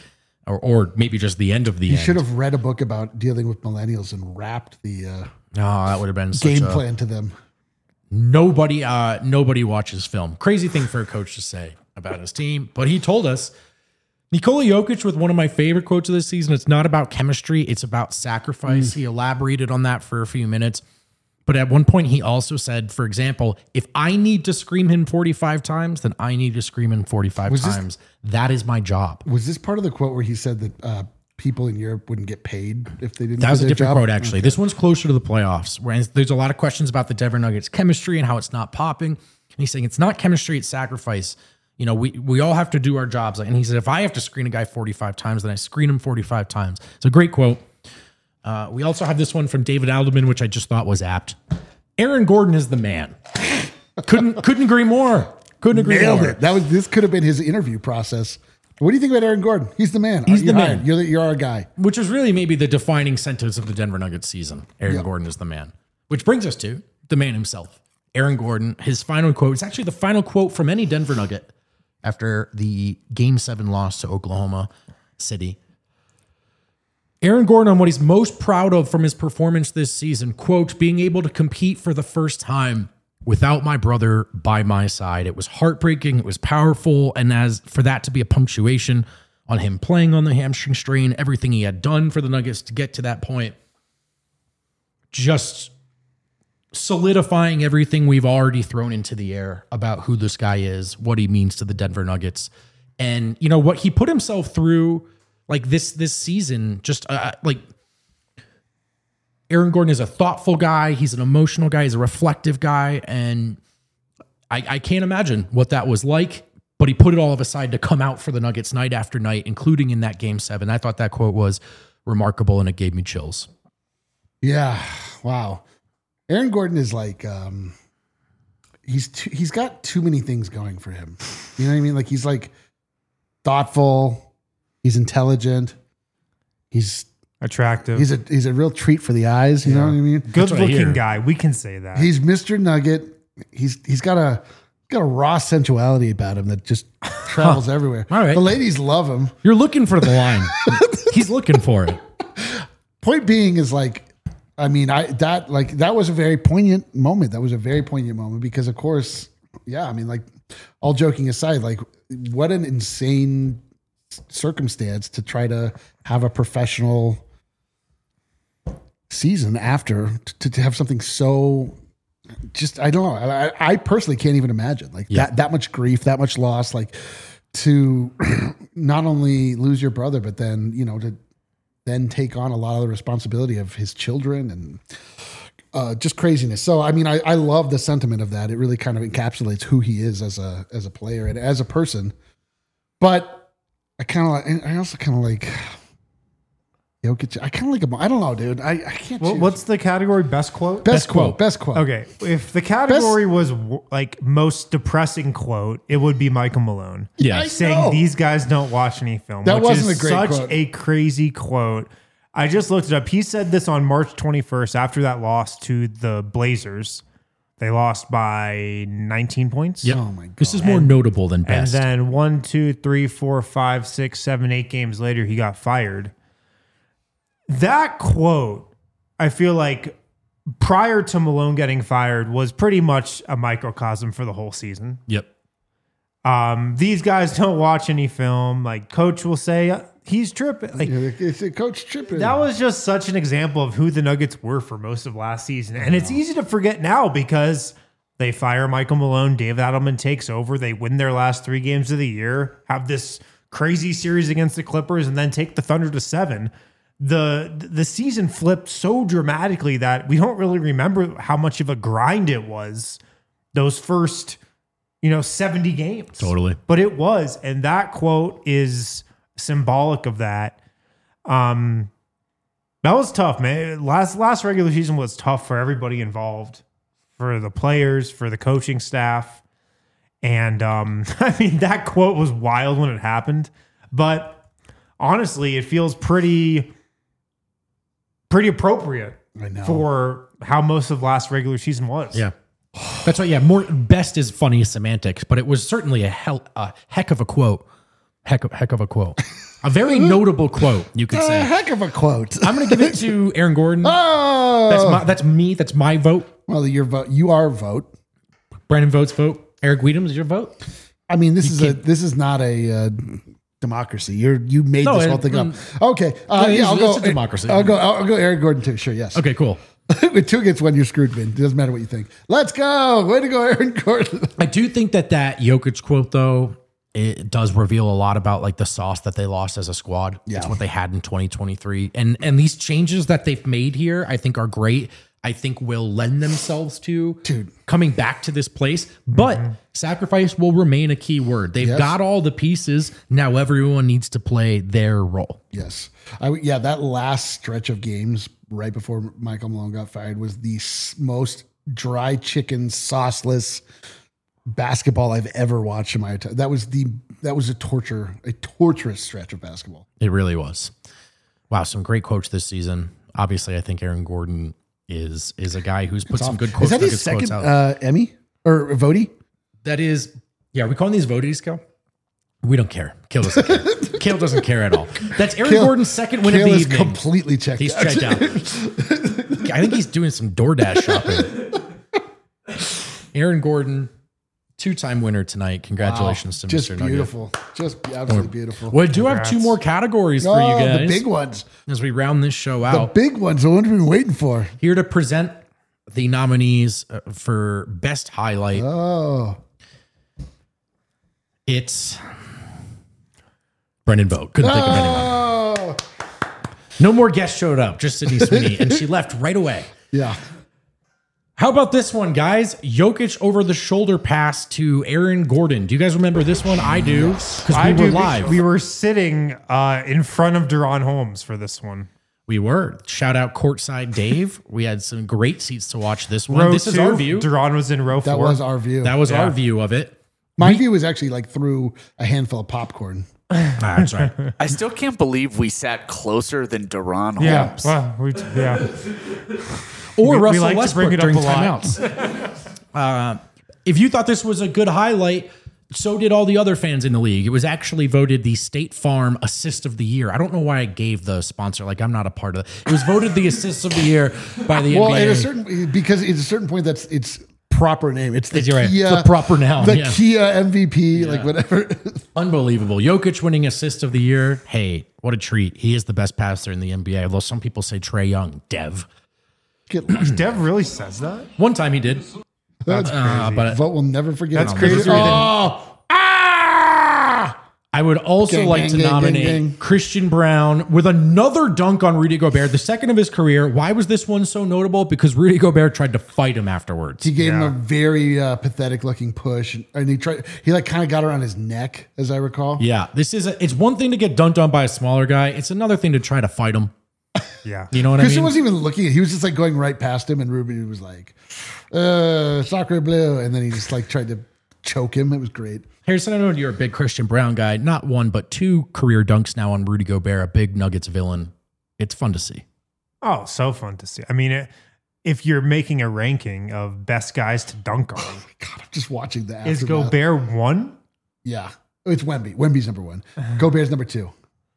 or maybe just the end of the You end. should have read a book about dealing with millennials and wrapped the Oh, that would have been such game a, plan to them. nobody watches film. Crazy thing for a coach to say about his team, but he told us. Nikola Jokic with one of my favorite quotes of this season. It's not about chemistry, it's about sacrifice. He elaborated on that for a few minutes. But at one point he also said, for example, if I need to scream him 45 times, then I need to scream him 45 times. That is my job. Was this part of the quote where he said that people in Europe wouldn't get paid if they didn't That do was a their different job? quote, actually. This one's closer to the playoffs, whereas there's a lot of questions about the Denver Nuggets chemistry and how it's not popping. And he's saying it's not chemistry, it's sacrifice. You know, we all have to do our jobs. And he said, if I have to screen a guy 45 times, then I screen him 45 times. It's a great quote. We also have this one from David Alderman, which I just thought was apt. Aaron Gordon is the man. Couldn't agree more. Couldn't agree Nailed more. it. This could have been his interview process. What do you think about Aaron Gordon? He's the man. He's the You're man. hired. You're our guy. Which is really maybe the defining sentence of the Denver Nuggets season. Aaron Gordon is the man. Which brings us to the man himself. Aaron Gordon, his final quote. It's actually the final quote from any Denver Nugget after the Game 7 loss to Oklahoma City. Aaron Gordon on what he's most proud of from his performance this season, quote, being able to compete for the first time without my brother by my side. It was heartbreaking. It was powerful. And as for that to be a punctuation on him playing on the hamstring strain, everything he had done for the Nuggets to get to that point, just solidifying everything we've already thrown into the air about who this guy is, what he means to the Denver Nuggets. And, you know, what he put himself through like this season, just like Aaron Gordon is a thoughtful guy. He's an emotional guy. He's a reflective guy. And I can't imagine what that was like, but he put it all aside to come out for the Nuggets night after night, including in that Game 7. I thought that quote was remarkable and it gave me chills. Yeah. Wow. Aaron Gordon is like, he's got too many things going for him. You know what I mean? Like he's like thoughtful. He's intelligent. He's Attractive. He's a real treat for the eyes. You know what I mean? Good what I hear. looking guy. We can say that. He's Mr. Nugget. He's got a raw sensuality about him that just travels everywhere. All right. The ladies love him. You're looking for the line. He's looking for it. Point being is like, I mean, that was a very poignant moment. That was a very poignant moment because, of course, yeah. I mean, like, all joking aside, like, what an insane circumstance to try to have a professional season after to have something so. Just I don't know. I personally can't even imagine like that much grief, that much loss, like to not only lose your brother, but then to then take on a lot of the responsibility of his children and just craziness. So I mean, I love the sentiment of that. It really kind of encapsulates who he is as a player and as a person. But I also kind of like Jokic. I kind of like him. I don't know, dude. I can't. choose. What's the category? Best quote? Best quote? Best quote. Okay. If the category was like most depressing quote, it would be Michael Malone. Yeah. I Saying know. these guys don't watch any film. That which wasn't is a great such quote. a crazy quote. I just looked it up. He said this on March 21st after that loss to the Blazers. They lost by 19 points. Yep. Oh my God. This is more notable than best. And then 1, 2, 3, 4, 5, 6, 7, 8 games later, he got fired. That quote, I feel like prior to Malone getting fired, was pretty much a microcosm for the whole season. Yep. These guys don't watch any film. Like Coach will say, he's tripping. Like It's a coach tripping. that was just such an example of who the Nuggets were for most of last season. And it's easy to forget now because they fire Michael Malone, Dave Adelman takes over, they win their last 3 games of the year, have this crazy series against the Clippers, and then take the Thunder to 7. The season flipped so dramatically that we don't really remember how much of a grind it was those first 70 games. Totally. But it was, and that quote is symbolic of that. That was tough, man. Last regular season was tough for everybody involved, for the players, for the coaching staff. And I mean, that quote was wild when it happened, but honestly, it feels pretty appropriate I know. for how most of last regular season was. Yeah. That's right. Yeah. More best is funny semantics, but it was certainly a heck of a quote. Heck of a quote. A very notable quote, you could A say. heck of a quote. I'm going to give it to Aaron Gordon. Oh, That's me. That's my vote. well, your vote. You are vote. Brandon votes vote. Eric Weedham is your vote. I mean, this is not a democracy. You made No, this whole thing up. Okay, I'll it's go. a democracy. I'll go. Aaron Gordon too. Sure, yes. Okay, cool. With 2 against 1, you're screwed, Vin. It doesn't matter what you think. Let's go. Way to go, Aaron Gordon. I do think that Jokic quote, though, it does reveal a lot about like the sauce that they lost as a squad. Yeah. It's what they had in 2023. And these changes that they've made here, I think are great. I think will lend themselves to coming back to this place. But sacrifice will remain a key word. They've got all the pieces. Now everyone needs to play their role. Yes. That last stretch of games right before Michael Malone got fired was the most dry chicken, sauceless basketball I've ever watched in my entire. That was a torturous stretch of basketball. It really was. Wow, some great quotes this season. Obviously, I think Aaron Gordon is a guy who's put some good quotes. Is that his second Emmy or Votey? That is, are we calling these voties, Kel? We don't care. Kale doesn't care. Kale doesn't care at all. That's Aaron Gordon's second win of the evening. Completely checked. He's checked out. I think he's doing some DoorDash shopping. Aaron Gordon, 2-time winner tonight. Congratulations to Just Mr. Nugget. beautiful. Just absolutely beautiful. We do have 2 more categories for you guys. The big ones. As we round this show The out. big ones. The ones we've been waiting for. Here to present the nominees for Best Highlight. Oh. It's Brendan Vogt. Couldn't think of anyone. Oh. No more guests showed up, just Sydney Sweeney, and she left right away. Yeah. How about this one, guys? Jokic over the shoulder pass to Aaron Gordon. Do you guys remember this one? I do, because we were live. We were sitting in front of Deron Holmes for this one. We were. Shout out courtside Dave. We had some great seats to watch this one. This is our view. Deron was in row 4. That was our view. That was our view of it. My view was actually like through a handful of popcorn. That's right. I still can't believe we sat closer than Deron Holmes. Yeah. Well, Or We Russell like to Westbrook bring it up during a lot. timeouts. If you thought this was a good highlight, so did all the other fans in the league. It was actually voted the State Farm Assist of the Year. I don't know why I gave the sponsor, like I'm not a part of it. It was voted the Assist of the Year by the Well, NBA. because at a certain point, that's its proper name. It's the You're right. Kia, The proper noun, The yeah. Kia MVP, like whatever. Unbelievable. Jokic winning Assist of the Year. Hey, what a treat. He is the best passer in the NBA, although some people say Trae Young, Dev. Get lost. Dev really says that? One time he did. That's crazy. But Vote will never forget. That's it. crazy. I would also Gang, like gang, to gang, nominate gang, gang. Christian Brown with another dunk on Rudy Gobert, the second of his career. Why was this one so notable? Because Rudy Gobert tried to fight him afterwards. He gave him a very pathetic looking push, and he like kind of got around his neck, as I recall. Yeah, it's one thing to get dunked on by a smaller guy. It's another thing to try to fight him. Yeah. You know what Christian I mean? wasn't even looking. He was just like going right past him, and Ruby was like, "Soccer blue," and then he just like tried to choke him. It was great. Harrison, I know you're a big Christian Brown guy. Not one, but 2 career dunks now on Rudy Gobert, a big Nuggets villain. It's fun to see. Oh, so fun to see. I mean, if you're making a ranking of best guys to dunk on, God, I'm just watching that. is Gobert 1? Yeah, it's Wemby. Wemby's number 1. Gobert's number 2.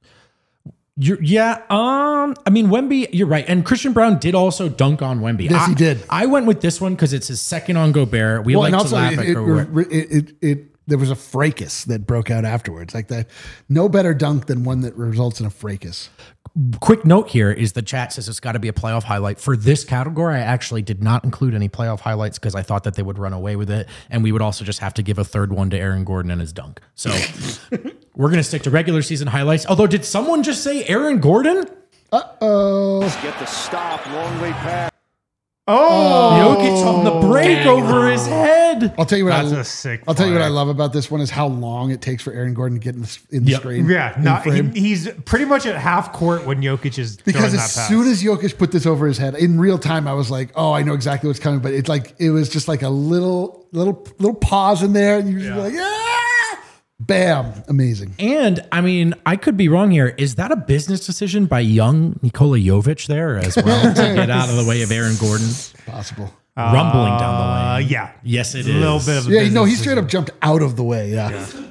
I mean, Wemby, you're right. And Christian Brown did also dunk on Wemby. Yes, he did. I went with this one because it's his second on Gobert. We like to laugh at Gobert. There was a fracas that broke out afterwards. Like that, no better dunk than one that results in a fracas. Quick note here is the chat says it's got to be a playoff highlight. For this category, I actually did not include any playoff highlights because I thought that they would run away with it. And we would also just have to give a third one to Aaron Gordon and his dunk. So we're going to stick to regular season highlights. Although, did someone just say Aaron Gordon? Get the stop, long way pass. Oh, Jokic on the break over his head. I'll tell you what. That's a sick I'll tell you what I fire. love about this one is how long it takes for Aaron Gordon to get in the Yep. screen. Yeah, in not, frame. he's pretty much at half court when Jokic is Because throwing as that pass. soon as Jokic put this over his head, in real time, I was like, "Oh, I know exactly what's coming." But it's like it was just like a little pause in there, and you just like, "Yeah, bam, amazing." And I mean, I could be wrong here. Is that a business decision by young Nikola Jovic there as well to get out of the way of Aaron Gordon Possible. rumbling down the lane? Yeah. Yes, it A little is. bit of a Yeah, business no, he straight decision. up jumped out of the way. Yeah.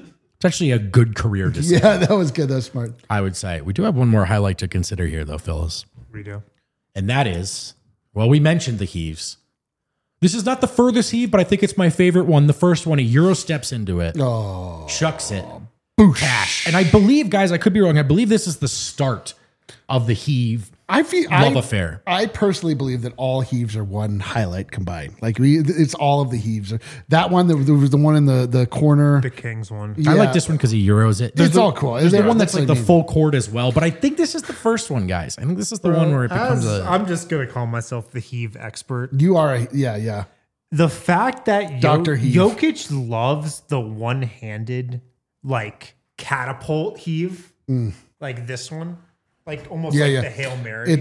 It's actually a good career decision, Yeah, that was good. That was smart. I would say. We do have one more highlight to consider here, though, Phyllis. We do. And that is, well, we mentioned the heaves. This is not the furthest heave, but I think it's my favorite one. The first one, a Euro steps into it, chucks it, cash. And I believe, guys, I could be wrong. I believe this is the start of the heave love affair. I personally believe that all heaves are one highlight combined. Like it's all of the heaves. That one, there was the one in the corner. The Kings one. I like this one because he Euros it. It's all cool. There's the one that's like the what I mean. full court as well. But I think this is the first one, guys. I think this is the one where it becomes I'm just going to call myself the heave expert. You are, yeah. The fact that Dr. Heave. Jokic loves the one-handed like catapult heave, like this one, like almost Yeah, like yeah. the Hail Mary,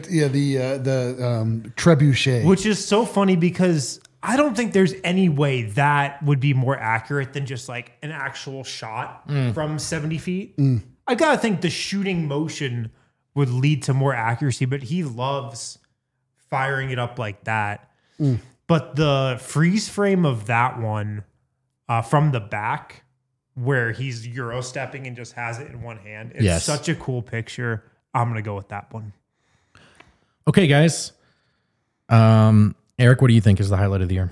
The trebuchet. which is so funny because I don't think there's any way that would be more accurate than just like an actual shot from 70 feet. I gotta think the shooting motion would lead to more accuracy, but he loves firing it up like that. But the freeze frame of that one from the back, where he's Euro stepping and just has it in one hand, it's such a cool picture. I'm gonna go with that one. Okay, guys. Eric, what do you think is the highlight of the year?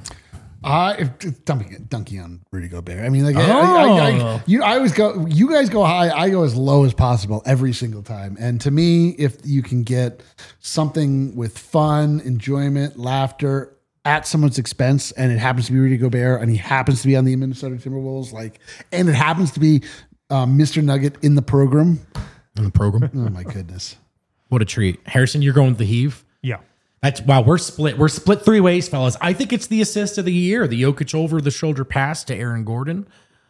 Dunking on Rudy Gobert. I mean, like, Oh. you always go. You guys go high. I go as low as possible every single time. And to me, if you can get something with fun, enjoyment, laughter at someone's expense, and it happens to be Rudy Gobert, and he happens to be on the Minnesota Timberwolves, and it happens to be Mr. Nugget in the program. In the program? Oh my goodness! What a treat. Harrison, you're going with the heave? Yeah. That's wow, we're split. We're split three ways, fellas. I think it's the assist of the year, the Jokic over the shoulder pass to Aaron Gordon.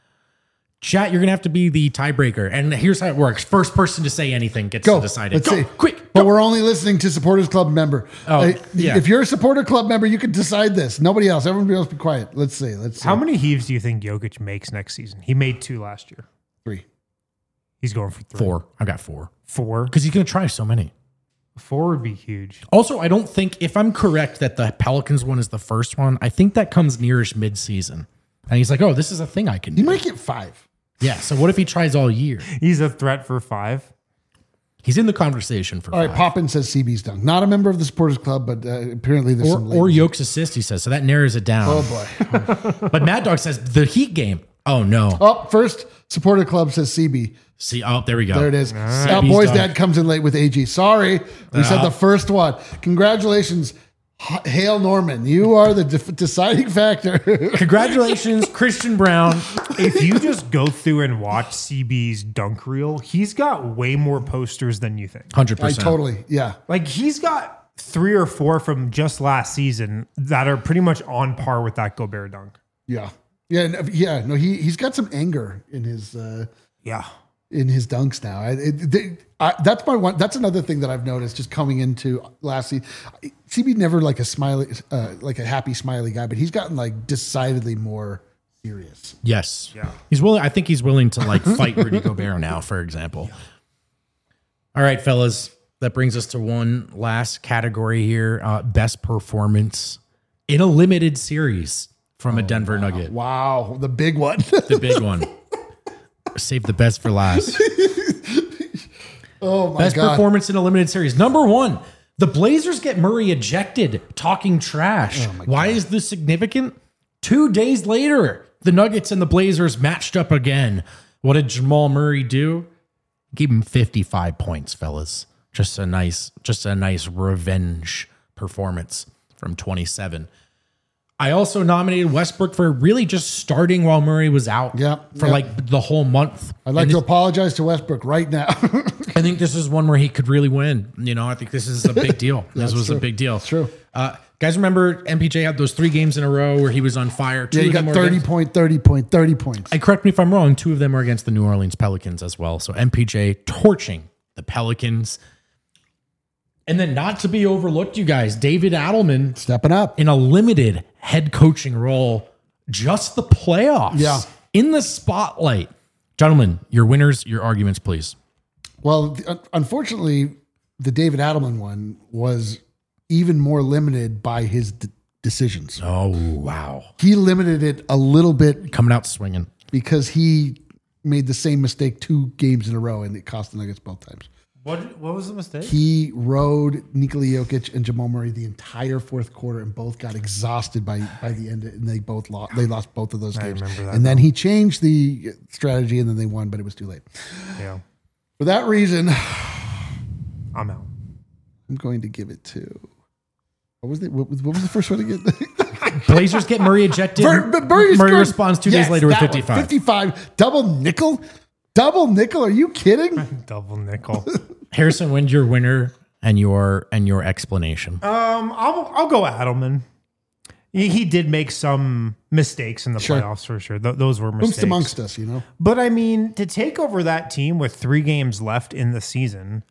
Chat, you're gonna have to be the tiebreaker. And here's how it works. First person to say anything gets to decide it. Let's see. Quick. But we're only listening to Supporters Club member. Yeah. If you're a Supporter Club member, you can decide this. Nobody else. Everybody else be quiet. Let's see. How many heaves do you think Jokic makes next season? He made 2 last year. 3. He's going for 3. 4. I got 4. 4? Because he's gonna try so many. 4 would be huge. Also, I don't think, if I'm correct that the Pelicans one is the first one, I think that comes nearish mid-season. And he's like, oh, this is a thing I can do. You might get 5. Yeah, so what if he tries all year? He's a threat for 5. He's in the conversation for All right, 5. Poppin says CB's dunk. Not a member of the Supporters Club, but apparently there's some Or ladies. Yoke's assist, he says. So that narrows it down. Oh, boy. But Mad Dog says the Heat game. Oh, no. Oh, first Supporter Club says CB. See, oh, there we go. There it is. CB's Boy's dunk. dad comes in late with AG. Sorry. We said the first one. Congratulations, Hale Norman. You are the deciding factor. Congratulations, Christian Brown. If you just go through and watch CB's dunk reel, he's got way more posters than you think. 100%. Yeah. Like he's got 3 or 4 from just last season that are pretty much on par with that Gobert dunk. Yeah. Yeah. No, he's got some anger in his Yeah. in his dunks now. That's my one. That's another thing that I've noticed just coming into last season. CB never like a smiley, like a happy smiley guy, but he's gotten like decidedly more serious. Yes. Yeah. He's willing. I think he's willing to like fight Rudy Gobert now, for example. All right, fellas. That brings us to one last category here. Best performance in a limited series from a Denver Nugget. Wow, the big one. The big one. Save the best for last. Oh my Best god! performance in a limited series. Number 1, the Blazers get Murray ejected, talking trash. Why is this significant? 2 days later, the Nuggets and the Blazers matched up again. What did Jamal Murray do? Give him 55 points, fellas. Just a nice revenge performance from 27. I also nominated Westbrook for really just starting while Murray was out for like the whole month. I'd like to apologize to Westbrook right now. I think this is one where he could really win. You know, I think this is a big deal. This was a big deal. It's true. Guys, remember MPJ had those 3 games in a row where he was on fire. Yeah, you got 30 points. And correct me if I'm wrong, 2 of them are against the New Orleans Pelicans as well. So MPJ torching the Pelicans. And then not to be overlooked, you guys, David Adelman Stepping up. in a limited head coaching role, just the playoffs. Yeah. In the spotlight. Gentlemen, your winners, your arguments, please. Well, unfortunately, the David Adelman one was even more limited by his decisions. Oh, wow. He limited it a little bit Coming out swinging. because he made the same mistake 2 games in a row, and it cost the Nuggets both times. What was the mistake? He rode Nikola Jokic and Jamal Murray the entire fourth quarter, and both got exhausted by the end, and they both lost. They lost both of those games. remember that and then he changed the strategy, and then they won, but it was too late. Yeah. For that reason, I'm out. I'm going to give it to. What was the first one again? Blazers get Murray ejected. Murray Murray responds 2 days later with that one. 55. 55. Double nickel? Double nickel? Are you kidding? Double nickel. Harrison, when's your winner and your explanation? I'll go Adelman. He did make some mistakes in the Sure. playoffs for sure. Those were mistakes. Who's amongst us, you know? But I mean, to take over that team with 3 games left in the season,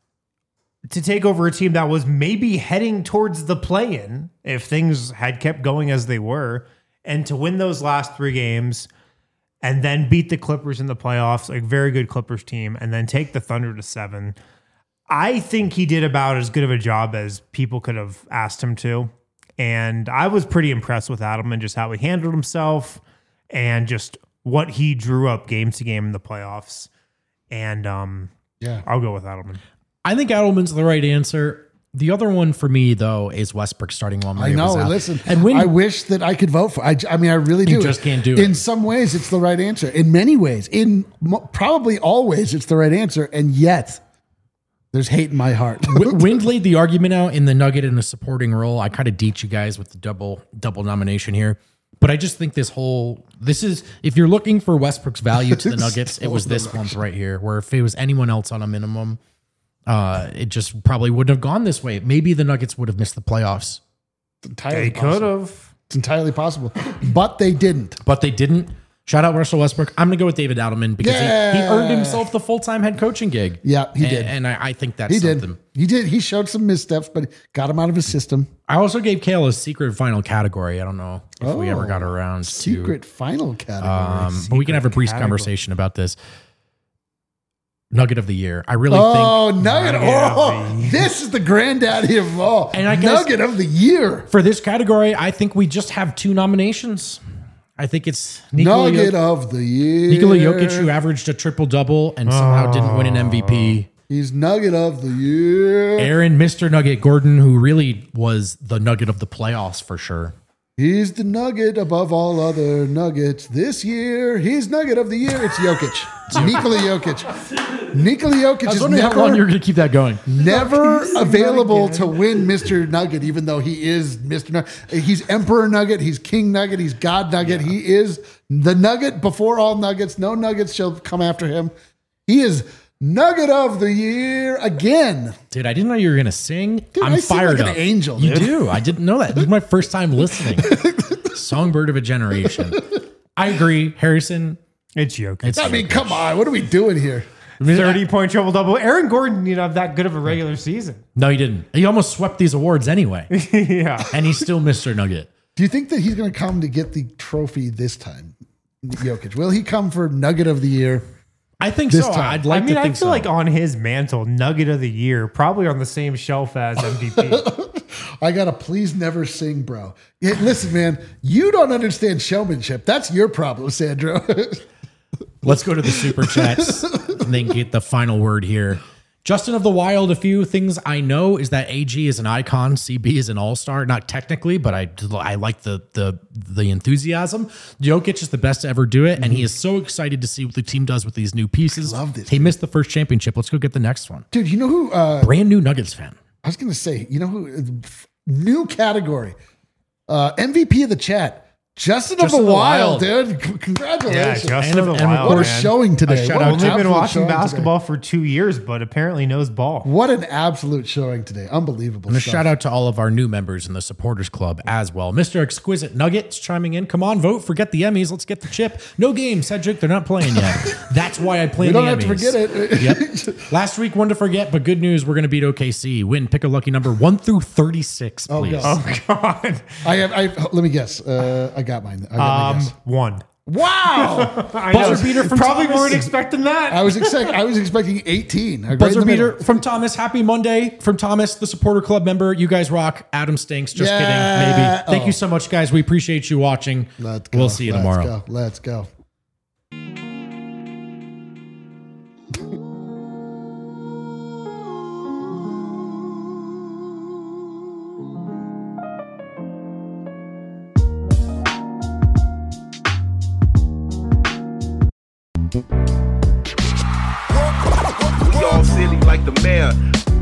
to take over a team that was maybe heading towards the play-in if things had kept going as they were, and to win those last 3 games and then beat the Clippers in the playoffs, like very good Clippers team, and then take the Thunder to 7. I think he did about as good of a job as people could have asked him to. And I was pretty impressed with Adelman, just how he handled himself and just what he drew up game to game in the playoffs. And Yeah. I'll go with Adelman. I think Adelman's the right answer. The other one for me, though, is Westbrook starting while Murray I know. was out. Listen, and when I wish that I could vote for. I mean, I really do. You just can't do it. In some ways, it's the right answer. In many ways, probably all ways, it's the right answer. And yet, there's hate in my heart. Wind laid the argument out in the Nugget in a supporting role. I kind of deet you guys with the double nomination here. But I just think this is, if you're looking for Westbrook's value to the Nuggets, it was this month right here, where if it was anyone else on a minimum, it just probably wouldn't have gone this way. Maybe the Nuggets would have missed the playoffs. It's entirely They possible. could have. It's entirely possible, but they didn't. But they didn't. Shout out Russell Westbrook. I'm going to go with David Adelman because he Yeah. earned himself the full-time head coaching gig. Yeah, he did. And I think that's He something. did. He did. He showed some missteps, but got him out of his system. I also gave Kale a secret final category. I don't know if we ever got around Secret final category. to, but we can have a brief category. conversation about this. Nugget of the year. I really Oh, think Nugget. Nugget of Oh, the year. this is the granddaddy of all. And I guess- Nugget of the year. for this category, I think we just have 2 nominations. I think it's Nikola Nugget of the year. Jokic, who averaged a triple-double and somehow didn't win an MVP. He's Nugget of the year. Aaron, Mr. Nugget Gordon, who really was the Nugget of the playoffs for sure. He's the Nugget above all other Nuggets this year. He's Nugget of the year. It's Jokic. It's Nikola Jokic. Nikola Jokic I was is wondering how long you were going to keep that going. never available to win Mr. Nugget, even though he is Mr. Nugget. He's Emperor Nugget. He's King Nugget. He's God Nugget. He is the Nugget before all Nuggets. No Nuggets shall come after him. He is Nugget of the year again. Dude, I didn't know you were going to sing. Dude, I'm I sing fired like up. an angel, You dude. do. I didn't know that. This is my first time listening. Songbird of a generation. I agree. Harrison. It's Jokic. It's I mean, come on. What are we doing here? 30-point triple-double. Aaron Gordon didn't have that good of a regular season. No, he didn't. He almost swept these awards anyway. Yeah. And he's still Mr. Nugget. Do you think that he's going to come to get the trophy this time? Jokic. Will he come for Nugget of the year? I think This so. time. I'd like I mean, to I think feel so. like on his mantle, Nugget of the Year, probably on the same shelf as MVP. I got to please never sing, bro. Yeah, listen, man, you don't understand showmanship. That's your problem, Sandro. Let's go to the super chats and then get the final word here. Justin of the Wild, a few things I know is that AG is an icon, CB is an all-star, not technically, but I like the enthusiasm. Jokic is the best to ever do it, and he is so excited to see what the team does with these new pieces. I love this, He missed the first championship. Let's go get the next one. Dude, you know who? Brand new Nuggets fan. I was going to say, you know who? New category. MVP of the chat. Justin of the Wild, dude. Congratulations. Justin And of of the Wild, What a man. showing today. A shout What out an to- Only been absolute watching showing basketball for 2 years, but apparently knows ball. today. What an absolute showing today. Unbelievable. And a stuff. shout out to all of our new members in the supporters club as well. Mr. Exquisite Nuggets chiming in. Come on, vote. Forget the Emmys. Let's get the chip. No game, Cedric. They're not playing yet. That's why I play We the don't have to Emmys. forget it. Yep. Last week, one to forget, but good news. We're going to beat OKC. Win. Pick a lucky number 1 through 36, please. God. Oh, God. Let me guess. I got mine. I got my guess. 1. Wow. I Buzzer know. beater from Probably Thomas. weren't expecting that. I was expecting 18. Right Buzzer in the middle. beater from Thomas. Happy Monday from Thomas, the supporter club member. You guys rock. Adam stinks. Just Yeah. kidding. Maybe. Thank Oh. you so much, guys. We appreciate you watching. Let's go. We'll see you tomorrow. Let's go. We all silly like the mayor.